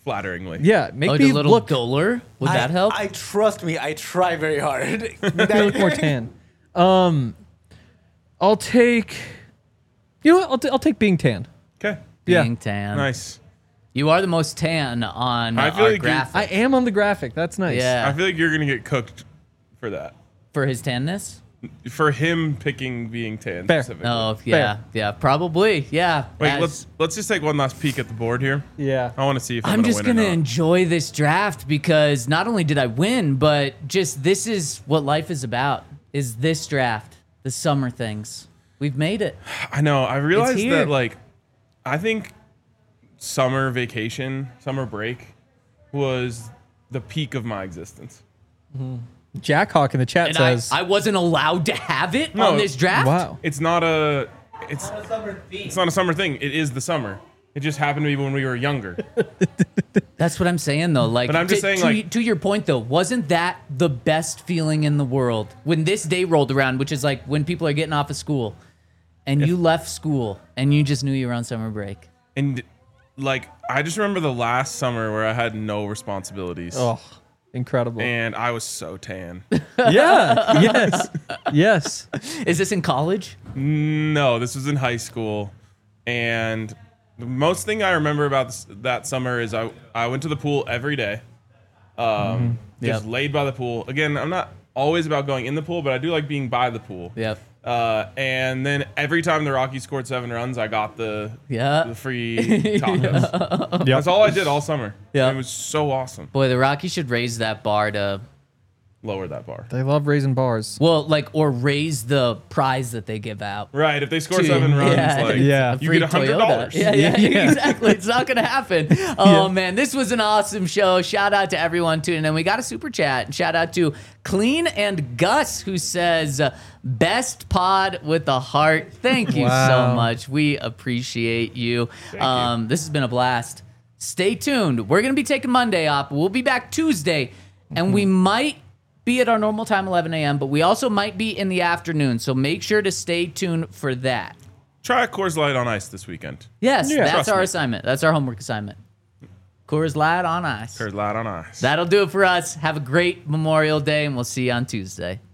flatteringly. Yeah, make Like me a little look, duller. Would I, that help? I trust me. I try very hard. make me look more tan. Um, I'll take. You know what? I'll, t- I'll take being tan. Okay. Yeah. Being tan. Nice. You are the most tan on I uh, feel our like you- graphic. I am on the graphic. That's nice. Yeah. I feel like you're gonna get cooked for that. For his tanness? For him picking being tan Fair. specifically. Oh, yeah. Yeah, probably. Yeah. Wait, As- let's let's just take one last peek at the board here. Yeah. I want to see if I'm, I'm gonna just win going to or not. enjoy this draft because not only did I win, but just this is what life is about, is this draft, the summer things. We've made it. I know. I realized here. that like, I think summer vacation, summer break, was the peak of my existence. Jack Hawk in the chat And I, says, I wasn't allowed to have it No. on this draft? "Wow, It's not a. It's it's not a summer thing. It is the summer. It just happened to be when we were younger. That's what I'm saying, though. Like, But I'm just to, saying, to, like- to your point, though, wasn't that the best feeling in the world when this day rolled around, which is like when people are getting off of school, and you left school and you just knew you were on summer break. And like, I just remember the last summer where I had no responsibilities. oh, incredible." And I was so tan. Yeah. Yes. Yes. Is this in college? No, this was in high school, and the most thing I remember about this, that summer is I I went to the pool every day, um, just Yep. laid by the pool. Again, I'm not always about going in the pool, but I do like being by the pool. Yep. Uh, and then every time the Rockies scored seven runs, I got the Yeah. the free tacos. Yep. That's all I did all summer. Yeah. And it was so awesome. Boy, the Rockies should raise that bar to, Lower that bar. They love raising bars. well, like, or raise the prize that they give out. Right. If they score to- seven runs, yeah, like Yeah. a you free get a hundred Toyota. dollars. Yeah, yeah, Yeah. exactly. It's not gonna happen. Oh man, this was an awesome show. Shout out to everyone tuning in. We got a super chat. Shout out to Clean and Gus, who says uh, best pod with a heart. Thank you Wow. so much. We appreciate you. Um, this has been a blast. Stay tuned. We're gonna be taking Monday off. We'll be back Tuesday, and we might be at our normal time, eleven a.m., but we also might be in the afternoon. So make sure to stay tuned for that. Try a Coors Light on ice this weekend. Yes, Yeah. that's Trust our me. assignment. That's our homework assignment. Coors Light on ice. Coors Light on ice. That'll do it for us. Have a great Memorial Day, and we'll see you on Tuesday.